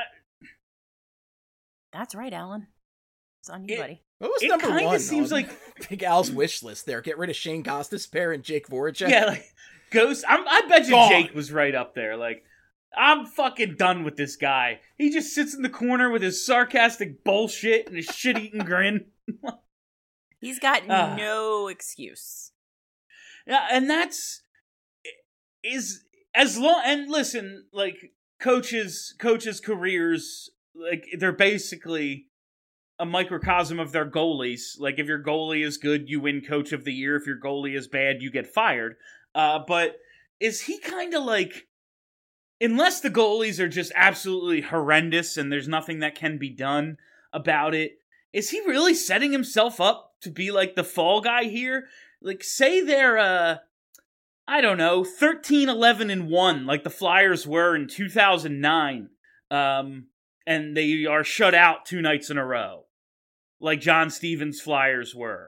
That's right, Alan. It's on you, buddy. What was It number kinda one seems on like- Big Al's wish list there? Get rid of Shane Gostisbehere and Jake Voracek. Yeah, like Ghost. I bet you Gone. Jake was right up there. Like, I'm fucking done with this guy. He just sits in the corner with his sarcastic bullshit and his shit-eating grin. He's got no excuse. Yeah, and that's is as long. And listen, like coaches' careers, like they're basically a microcosm of their goalies. Like if your goalie is good, you win Coach of the Year. If your goalie is bad, you get fired. But is he kind of like, unless the goalies are just absolutely horrendous and there's nothing that can be done about it, is he really setting himself up to be like the fall guy here? Like, say they're, I don't know, 13-11-1, like the Flyers were in 2009, and they are shut out 2 nights in a row, like John Stevens' Flyers were.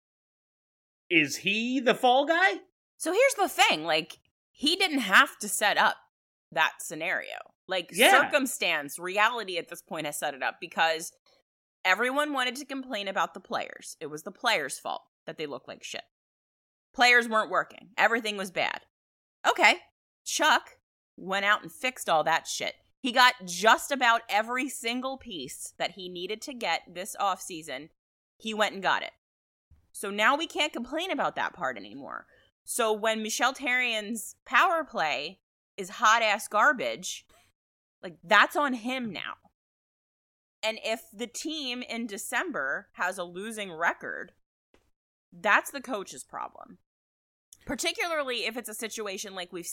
Is he the fall guy? So here's the thing, like, he didn't have to set up that scenario. Like, circumstance, reality at this point has set it up because everyone wanted to complain about the players. It was the players' fault that they looked like shit. Players weren't working. Everything was bad. Okay, Chuck went out and fixed all that shit. He got just about every single piece that he needed to get this offseason. He went and got it. So now we can't complain about that part anymore. So when Michel Therrien's power play is hot-ass garbage, like, that's on him now. And if the team in December has a losing record, that's the coach's problem. Particularly if it's a situation like we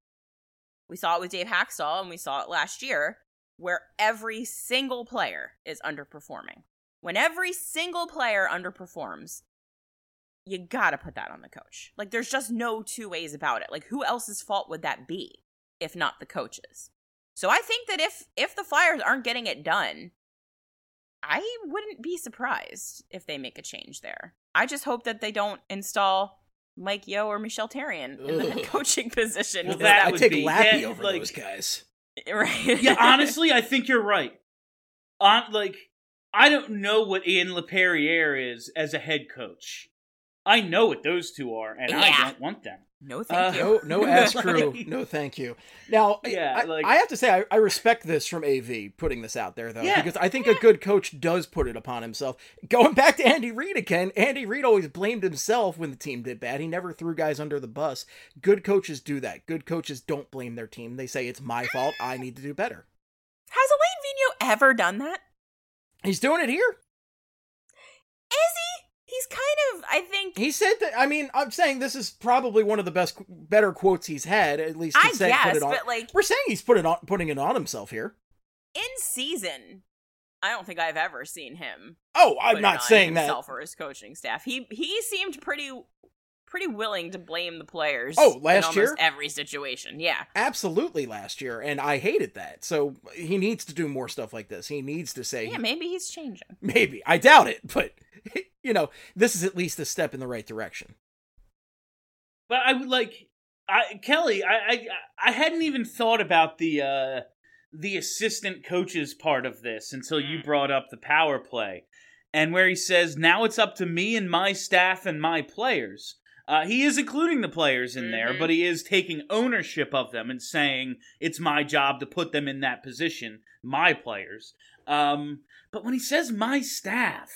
saw it with Dave Haxtell and we saw it last year, where every single player is underperforming. When every single player underperforms, you gotta put that on the coach. Like, there's just no two ways about it. Like, who else's fault would that be if not the coach's? So I think that if the Flyers aren't getting it done, I wouldn't be surprised if they make a change there. I just hope that they don't install Mike Yeo or Michel Therrien in the head coaching position. Well, that I would take be Lappy yeah, over like, those guys. Right. Yeah, honestly, I think you're right. Like, I don't know what Ian LePerriere is as a head coach. I know what those two are, and I don't want them. No, thank you. No ass crew. No, thank you. Now, Yeah, I have to say, I respect this from AV putting this out there, though, Yeah, because I think a good coach does put it upon himself. Going back to Andy Reid again, Andy Reid always blamed himself when the team did bad. He never threw guys under the bus. Good coaches do that. Good coaches don't blame their team. They say, it's my fault. I need to do better. Has Alain Vigneault ever done that? He's doing it here. Is he? He's kind of, I think... He said that, I mean, I'm saying this is probably one of the better quotes he's had, at least to I say, guess, put it on. but like... We're saying he's putting it on himself here. In season, I don't think I've ever seen him. Oh, I'm put it not on saying that. himself or his coaching staff. He seemed pretty willing to blame the players. Oh, last in year? almost every situation, yeah. Absolutely last year, and I hated that. So he needs to do more stuff like this. He needs to say... Yeah, maybe he's changing. Maybe. I doubt it, but, you know, this is at least a step in the right direction. But I would like, Kelly, I hadn't even thought about the assistant coaches part of this until you brought up the power play. And where he says, now it's up to me and my staff and my players. He is including the players in there, but he is taking ownership of them and saying, it's my job to put them in that position, my players. But when he says my staff,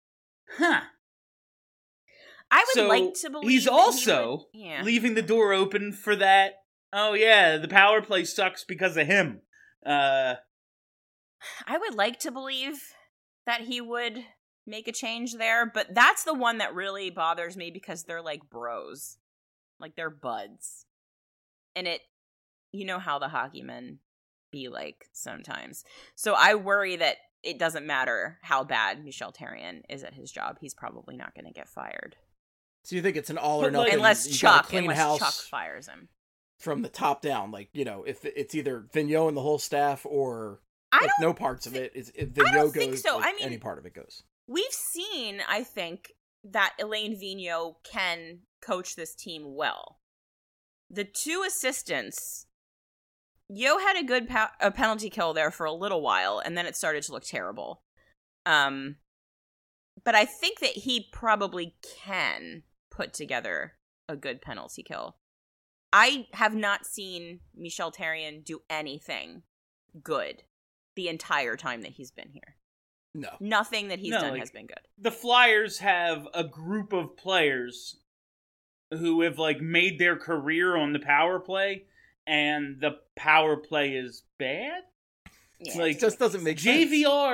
I would like to believe he's that also he would, leaving the door open for that, oh yeah, the power play sucks because of him. I would like to believe that he would make a change there, but that's the one that really bothers me because they're like bros. Like, they're buds. And you know how the hockey men be like sometimes. So I worry that it doesn't matter how bad Michel Therrien is at his job. He's probably not going to get fired. So you think it's an all or nothing? Unless you gotta Chuck clean house fires him. from the top down. Like, you know, if it's either Vigneault and the whole staff or like, no parts of it. If Vigneault goes, so. like, I mean, any part of it goes. We've seen, I think, that Alain Vigneault can coach this team well. The two assistants, Yo had a good a penalty kill there for a little while, and then it started to look terrible. But I think that he probably can put together a good penalty kill. I have not seen Michel Therrien do anything good the entire time that he's been here. No. Nothing that he's No, done like- has been good. The Flyers have a group of players who have like made their career on the power play, and the power play is bad. Yeah, Like, It just doesn't make sense.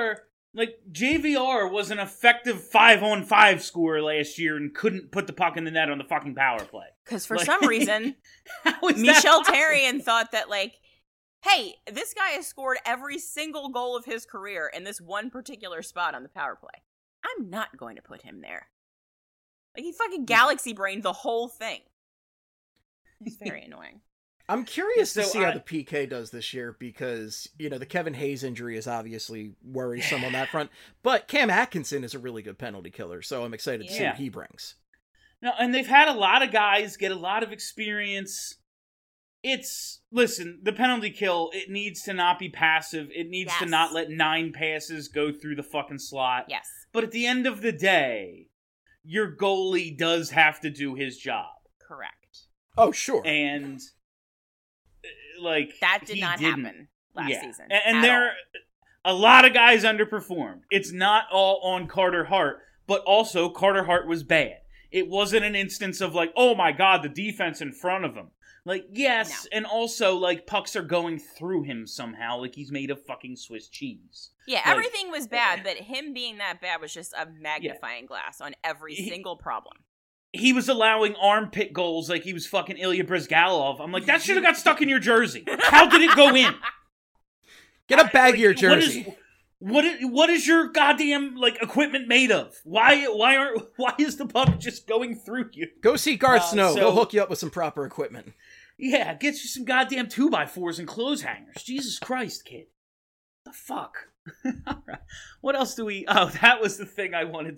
JVR was an effective 5-on-5 scorer last year and couldn't put the puck in the net on the fucking power play. Because for Like- some reason, How is that Michel possible? Therrien thought that, like, hey, this guy has scored every single goal of his career in this one particular spot on the power play. I'm not going to put him there. Like, he fucking galaxy brained the whole thing. It's very annoying. I'm curious to So see how I- the PK does this year because, the Kevin Hayes injury is obviously worrisome on that front. But Cam Atkinson is a really good penalty killer, so I'm excited to see Yeah. what he brings. No, and they've had a lot of guys get a lot of experience. Listen, the penalty kill, it needs to not be passive. It needs to Yes. not let 9 passes go through the fucking slot. Yes. But at the end of the day, your goalie does have to do his job. Correct. Oh, sure. And, like, That did he not didn't. happen last season. And at there, all. a lot of guys underperformed. It's not all on Carter Hart, but also Carter Hart was bad. It wasn't an instance of like, oh my god, the defense in front of him. Like, yes, and also, like, pucks are going through him somehow, like he's made of fucking Swiss cheese. Yeah, Like, everything was bad, but him being that bad was just a magnifying glass on every single problem. He was allowing armpit goals like he was fucking Ilya Brizgalov. I'm like, that should have got stuck in your jersey. How did it go in? Get a baggier jersey. What is your goddamn like equipment made of? Why is the puck just going through you? Go see Garth Snow. so- He'll hook you up with some proper equipment. Yeah, get you some goddamn 2x4s and clothes hangers. Jesus Christ, kid. The fuck? Alright. What else do we... Oh, that was the thing I wanted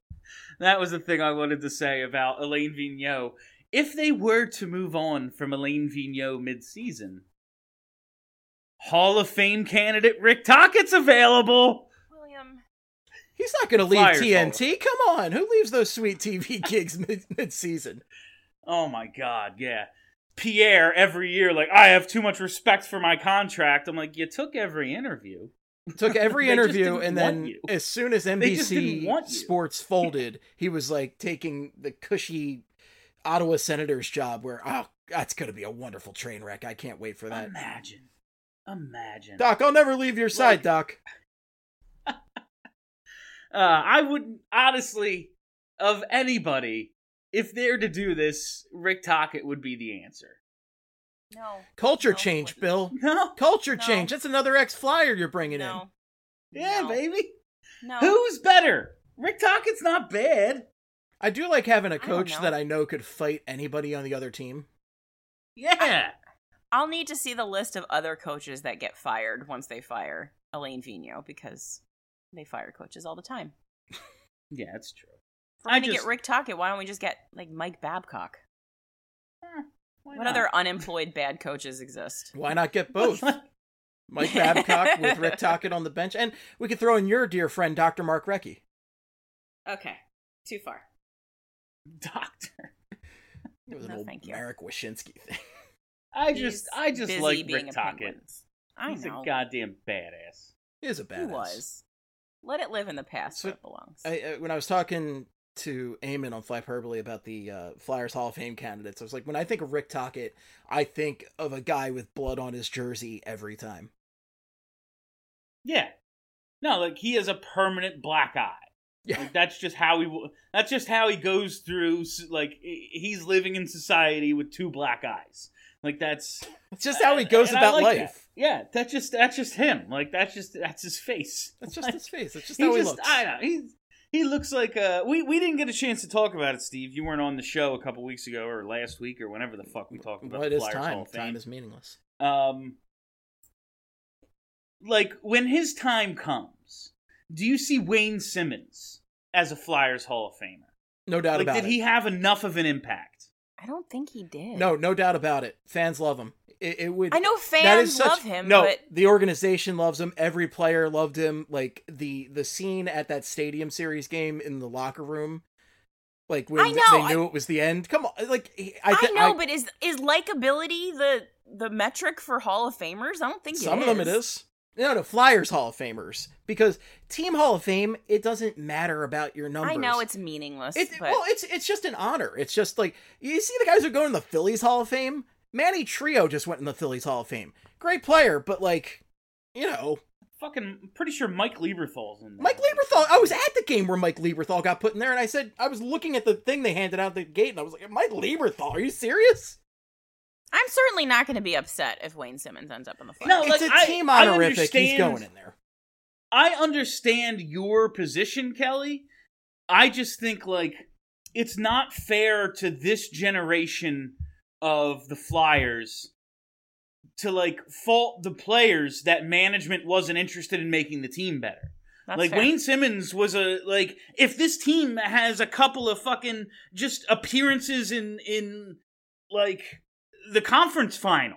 to say about Alain Vigneault. If they were to move on from Alain Vigneault mid-season, Hall of Fame candidate Rick Tockett's available. William, He's not going to leave Flyers TNT. Come on. Who leaves those sweet TV gigs mid-season? Oh my god, yeah. Pierre every year, like, I have too much respect for my contract. I'm like, you took every interview. Took every They just interview, didn't and want then you. as soon as They just didn't NBC want you. Sports folded, he was like taking the cushy Ottawa Senators job where, oh, that's going to be a wonderful train wreck. I can't wait for that. Imagine. Doc, I'll never leave your side, Doc. I would, honestly, of anybody, if they're to do this, Rick Tocchet would be the answer. no. Culture No, change, wouldn't. Bill. No? Culture No. change. That's another ex-Flyer you're bringing No. Yeah, No. baby. No. Who's better? Rick Tocchet's not bad. in. I do like having a don't coach know. that I know could fight anybody on the other team. Yeah. I'll need to see the list of other coaches that get fired once they fire Alain Vigneault, because they fire coaches all the time. Yeah, that's true. If we're I going to just- get Rick Tocchet, why don't we just get, like, Mike Babcock? Why What not? other unemployed bad coaches exist? Why not get both? Mike Babcock with Rick Tocchet on the bench. And we could throw in your dear friend, Dr. Mark Recchi. Okay. Too far. Doctor? It was an No, old thank you. Marek Wyshynski thing. I He's just busy like being Rick a Tocchet. Penguins. I He's know. a goddamn badass. He is a badass. He was. Let it live in the past So, where it belongs. When I was talking to Eamon on Flyperbole about the Flyers Hall of Fame candidates, I was like, when I think of Rick Tocchet, I think of a guy with blood on his jersey every time. Yeah. No, like he has a permanent black eye. Yeah. Like, that's just how he goes through. Like he's living in society with 2 black eyes. Like that's It's just how he goes and I about like life. that. Yeah, that's just him. Like that's his face. That's just his face. That's just He how he just looks. I don't know. He looks like we didn't get a chance to talk about it, Steve. You weren't on the show a couple weeks ago or last week or whenever the fuck we talked about What the is Flyers Hall time? of Fame. Time is meaningless. Like when his time comes, do you see Wayne Simmons as a Flyers Hall of Famer? No doubt Like, about did it. he have enough of an impact? I don't think he did. No doubt about it. Fans love him. It would. I know that is fans such- love him, No, but the organization loves him. Every player loved him. Like the scene at that Stadium Series game in the locker room Like when I know, they knew it was the end. Come on, like I know, but is likability the metric for Hall of Famers? I don't think some of them it is. No, Flyers Hall of Famers, because Team Hall of Fame, it doesn't matter about your numbers. I know it's meaningless. But... Well, it's just an honor. It's just like, you see the guys who go in the Phillies Hall of Fame. Manny Trio just went in the Phillies Hall of Fame. Great player, but like, you know. Fucking pretty sure Mike Lieberthal's in there. Mike Lieberthal, I was at the game where Mike Lieberthal got put in there, and I said, I was looking at the thing they handed out the gate, and I was like, Mike Lieberthal, are you serious? I'm certainly not going to be upset if Wayne Simmons ends up in the Flyers. No, It's like, a team honorific, he's going in there. I understand your position, Kelly. I just think, like, it's not fair to this generation of the Flyers to, like, fault the players that management wasn't interested in making the team better. That's like, fair. Wayne Simmons was if this team has a couple of fucking just appearances in like, the conference final,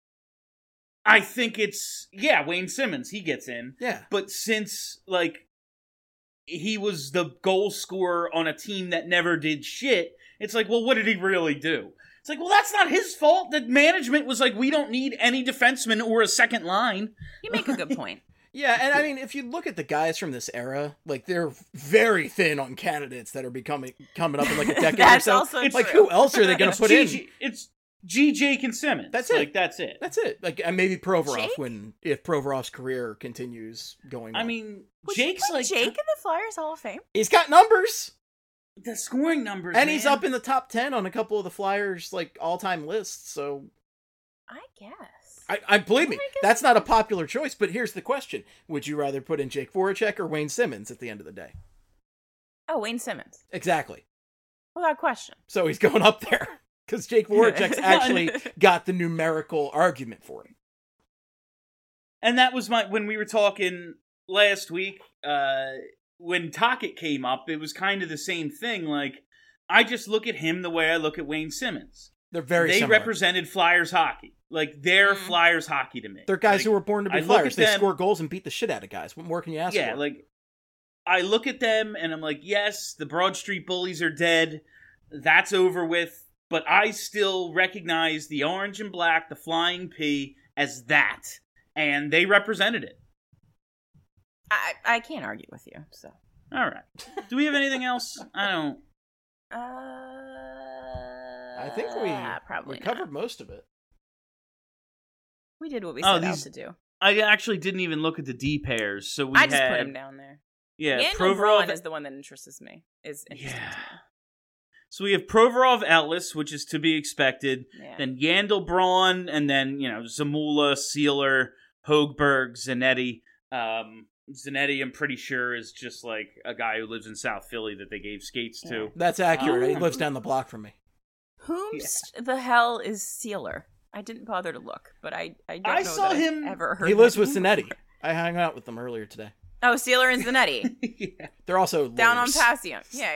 I think it's, Wayne Simmons, he gets in. Yeah. But since, like, he was the goal scorer on a team that never did shit, it's like, well, what did he really do? It's like, well, that's not his fault. The management was like, we don't need any defenseman or a second line. You make a good point. Yeah, and I mean, if you look at the guys from this era, like, they're very thin on candidates that are coming up in like a decade or That's so. also It's like, true. who else are they going to put in? It's G. Jake and Simmons. That's it. Like, that's it. That's it. Like, and maybe Provorov Jake? if Provorov's career continues going on. I mean, Would you Jake's put like Jake in the Flyers Hall of Fame? he's got numbers, the scoring numbers, and he's man. up in the top 10 on a couple of the Flyers like all-time lists. So I guess. I believe me, I guess- that's not a popular choice. But here's the question: would you rather put in Jake Voracek or Wayne Simmons at the end of the day? Oh, Wayne Simmons. Exactly. Without question. So he's going up there because Jake Voracek's actually got the numerical argument for him. And that was when we were talking last week, when Tocchet came up, it was kind of the same thing. Like, I just look at him the way I look at Wayne Simmons. They're very They similar. represented Flyers hockey. Like, they're Flyers hockey to me. They're guys Like, who were born to be I look Flyers. at They them- score goals and beat the shit out of guys. What more can you ask Yeah, for? like, I look at them and I'm like, yes, the Broad Street Bullies are dead. That's over with. But I still recognize the orange and black, the flying P, as that. And they represented it. I can't argue with you, so. All right. Do we have anything else? I don't. I think we probably covered not. most of it. We did what we Oh, set out these- to do. I actually didn't even look at the D pairs. So we I just had, put him down there. Yeah, Yandel Provorov. Braun is the one that interests me. Is interesting Yeah. to me. So we have Provorov, Ellis, which is to be expected. Yeah. Then Yandel Braun, and then, Zamula, Sealer, Hoegberg, Zanetti. Zanetti, I'm pretty sure, is just like a guy who lives in South Philly that they gave skates to. That's accurate. He Oh. lives down the block from me. Whomst the hell is Sealer? I didn't bother to look, but I don't I know saw that I've him- ever heard He lives that with name Zanetti. before. I hung out with them earlier today. Oh, Sealer and Zanetti. Yeah. They're also Down on lawyers. Passion. Yeah.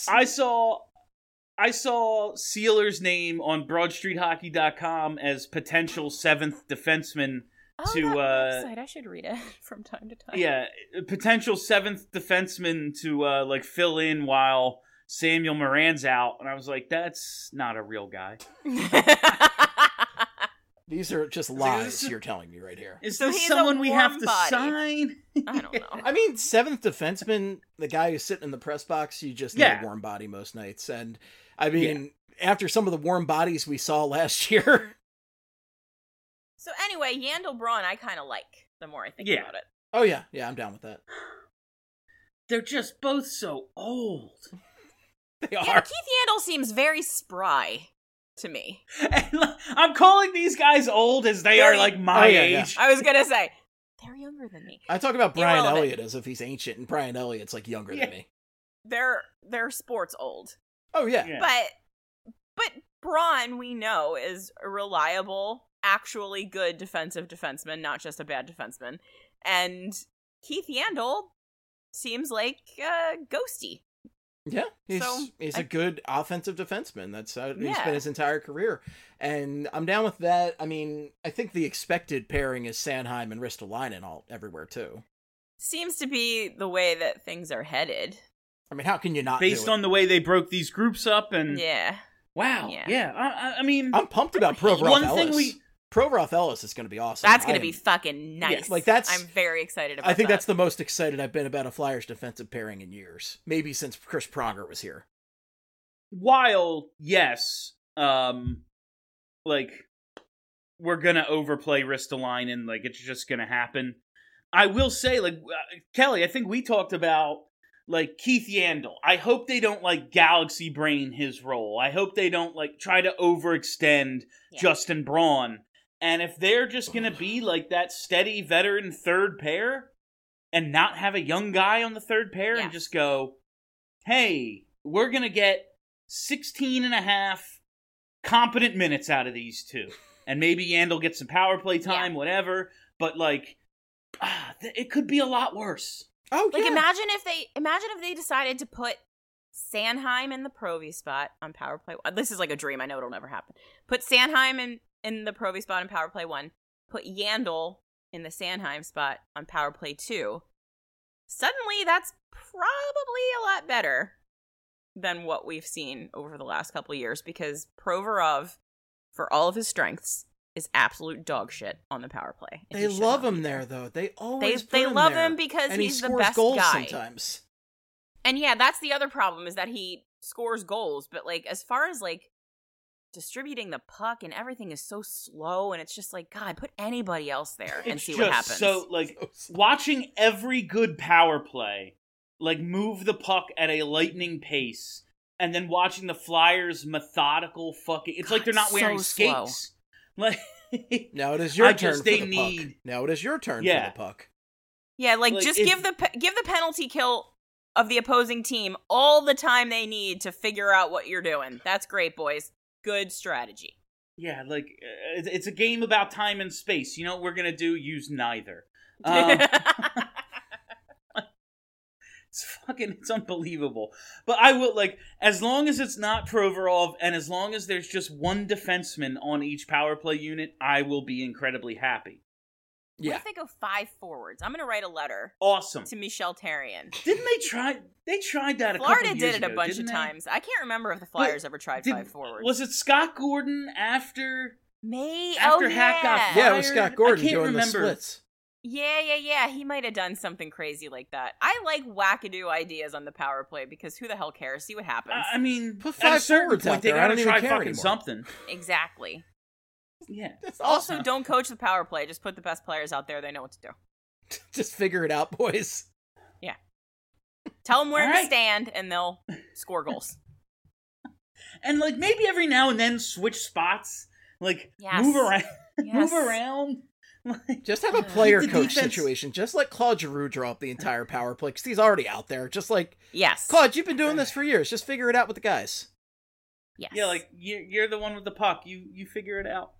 I saw Sealer's name on BroadStreetHockey.com as potential 7th defenseman Oh, to that website. I should read it from time to time. Yeah, potential 7th defenseman to like fill in while Samuel Moran's out, and I was like, that's not a real guy. These are just lies you're telling me right here. Is So this he's a someone we have warm to body. sign? I don't know. I mean, 7th defenseman, the guy who's sitting in the press box, you just need Yeah. a warm body most nights. And I mean, after some of the warm bodies we saw last year. So anyway, Yandel Braun I kind of like the more I think Yeah. about it. Oh, yeah. Yeah, I'm down with that. They're just both so old. They Yeah, are. Keith Yandel seems very spry to me. And, like, I'm calling these guys old as they Very- are like my Oh, yeah, yeah. age. I was gonna say they're younger than me. I talk about Brian Irrelevant. Elliott as if he's ancient, and Brian Elliott's like younger Yeah. than me. They're sports old. Oh, yeah. Yeah. But Braun, we know, is a reliable, actually good defensive defenseman, not just a bad defenseman. And Keith Yandel seems like ghosty. Yeah, he's So, a good offensive defenseman. That's how he's Yeah. been his entire career, and I'm down with that. I mean, I think the expected pairing is Sanheim and Ristolainen everywhere too. Seems to be the way that things are headed. I mean, how can you not based do it? on the way they broke these groups up. And Yeah. wow, Yeah. yeah. I mean, I'm pumped about Provorov one Ellis. thing Provorov Ellis is going to be awesome. That's going to I be am- fucking nice. Yeah, like, that's- I'm very excited about I think that. that's the most excited I've been about a Flyers defensive pairing in years. Maybe since Chris Pronger was here. while yes, like we're gonna overplay Ristolainen, like it's just gonna happen. I will say, like Kelly, I think we talked about like Keith Yandel. I hope they don't like galaxy brain his role. I hope they don't like try to overextend Yeah. Justin Braun. And if they're just gonna be like that steady veteran third pair and not have a young guy on the third pair Yeah. and just go, hey, we're gonna get 16 and a half competent minutes out of these two. And maybe Yandel gets some power play time, whatever. But like, it could be a lot worse. Oh, Like yeah. imagine if they decided to put Sanheim in the Provy spot on power play. This is like a dream. I know it'll never happen. Put Sanheim in the Provy spot on power play 1. Put Yandel in the Sanheim spot on power play 2. Suddenly, that's probably a lot better than what we've seen over the last couple of years because Provorov, for all of his strengths, is absolute dog shit on the power play. and They he should love not be him there, though. They always They put him love there. him because and he's he the scores best goals guy. sometimes. And yeah, that's the other problem is that he scores goals, but like as far as like distributing the puck and everything is so slow and it's just like God, put anybody else there and It's see just what happens. so like watching every good power play like move the puck at a lightning pace, and then watching the Flyers methodical fucking. It's like they're not so wearing slow. skates. Like Now it is your I turn just- for they the need- puck. Now it is your turn Yeah. for the puck. yeah, like like, just if- give the penalty kill of the opposing team all the time they need to figure out what you're doing. That's great, boys. Good strategy. yeah, like it's a game about time and space. You know what we're gonna do? Use neither. It's unbelievable. But I will, like, as long as it's not Provorov and as long as there's just one defenseman on each power play unit, I will be incredibly happy. What Yeah. if they go 5 forwards? I'm gonna write a letter Awesome. to Michel Therrien. Didn't they try? They tried that a Florida couple did years it a ago, bunch didn't of they? times. I can't remember if the Flyers ever tried 5 forwards. Was it Scott Gordon after May? Hack got fired? Yeah, it was Scott Gordon I can't doing remember. the splits. Yeah. He might have done something crazy like that. I like wackadoo ideas on the power play because who the hell cares? See what happens. I mean, Put at a 5 certain forwards out point, they there. I gotta don't even try care fucking anymore. something. Exactly. Yeah. Also, don't coach the power play. Just put the best players out there. They know what to do. Just figure it out, boys. Tell them where All to right. stand, and they'll score goals. And like maybe every now and then switch spots, like Yes. move around, Yes. move around. Like, Just have a player the coach defense- situation. Just let Claude Giroux draw up the entire power play because he's already out there. Just like, Yes. Claude, you've been doing this for years. Just figure it out with the guys. Yes. yeah, like you're the one with the puck. You figure it out.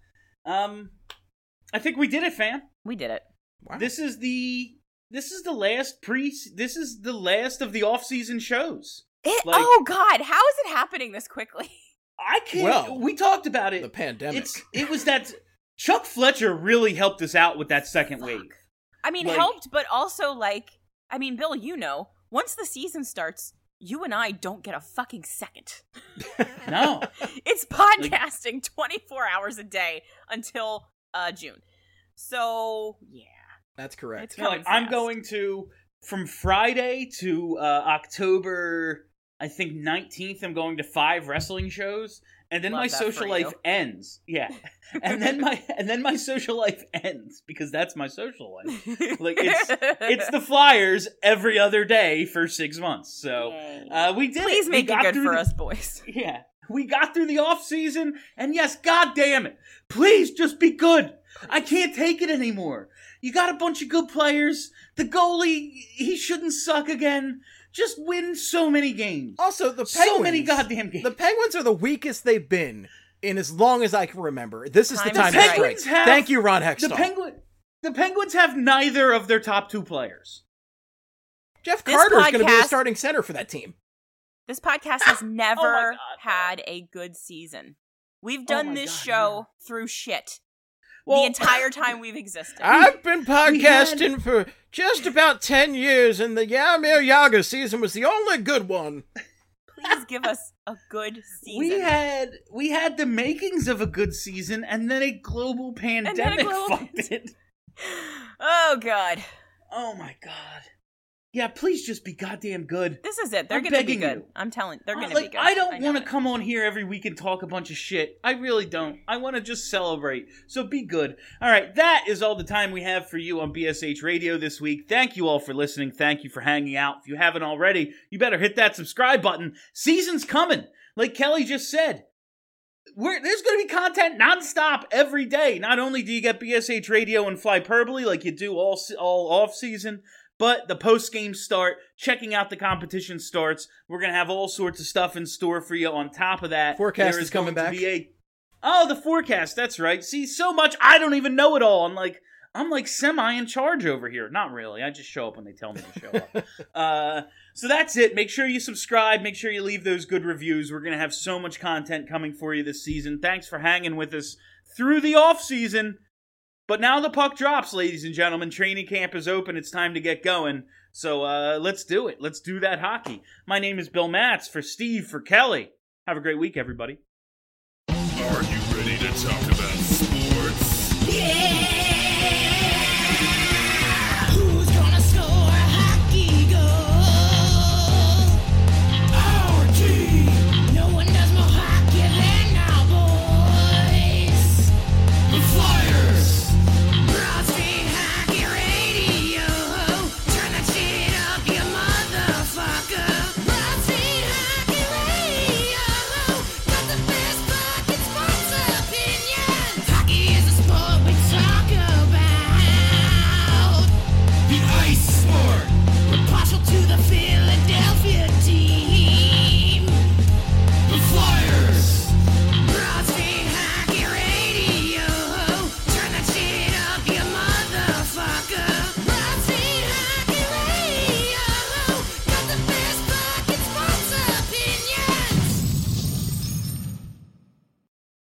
I think we did it, fam. we did it. Wow. This is the last This is the last of the off-season shows. Like- Oh God, how is it happening this quickly? I can't. Well, we talked about it. the pandemic. It was that Chuck Fletcher really helped us out with that second wave. I mean, Like- helped, but also like, I mean, Bill, you know, once the season starts, you and I don't get a fucking second. No. It's podcasting 24 hours a day until June. So yeah, That's correct. It's No, like, coming I'm fast. going to from Friday to October, I think 19th. I'm going to 5 wrestling shows, and then Love my that social for life you. ends. Yeah, and then my social life ends because that's my social life. Like it's the Flyers every other day for 6 months. So we did. Please it. make We it got good through for the- us, boys. Yeah, we got through the off season, and yes, god damn it, please just be good. I can't take it anymore. You got a bunch of good players. The goalie, he shouldn't suck again. Just win so many games. Also, the Penguins. So many goddamn games. The Penguins are the weakest they've been in as long as I can remember. This is the Time time is to right. strike. Penguins have- Thank you, Ron the Hextall. Penguins have neither of their top 2 players. Jeff This Carter is going to be the podcast- starting center for that team. This podcast has never God. had a good season. We've Oh done my this God, show through shit. Well, the entire time we've existed. I've been podcasting for just about 10 years, and the Yarmir Yaga season was the only good one. Please give us a good season. We had the makings of a good season, and then a global pandemic fucked it. Oh, God. Oh, my God. Yeah, please just be goddamn good. This is it. They're I'm going to be begging good. you. I'm telling they're going to Like, be good. I don't know want to it. come on here every week and talk a bunch of shit. I really don't. I want to just celebrate. So be good. All right, that is all the time we have for you on BSH Radio this week. Thank you all for listening. Thank you for hanging out. If you haven't already, you better hit that subscribe button. Season's coming. Like Kelly just said. There's going to be content nonstop every day. Not only do you get BSH Radio and Flyperbole like you do all off season, but the post-game start, checking out the competition starts. We're going to have all sorts of stuff in store for you on top of that. Forecast there is coming going back. to be the forecast, that's right. See, so much, I don't even know it all. I'm like semi in charge over here. Not really. I just show up when they tell me to show up. So that's it. Make sure you subscribe. Make sure you leave those good reviews. We're going to have so much content coming for you this season. Thanks for hanging with us through the off season. But now the puck drops, ladies and gentlemen. Training camp is open. It's time to get going. So let's do it. Let's do that hockey. My name is Bill Matz for Steve, for Kelly. Have a great week, everybody. Are you ready to talk about sports? Yeah!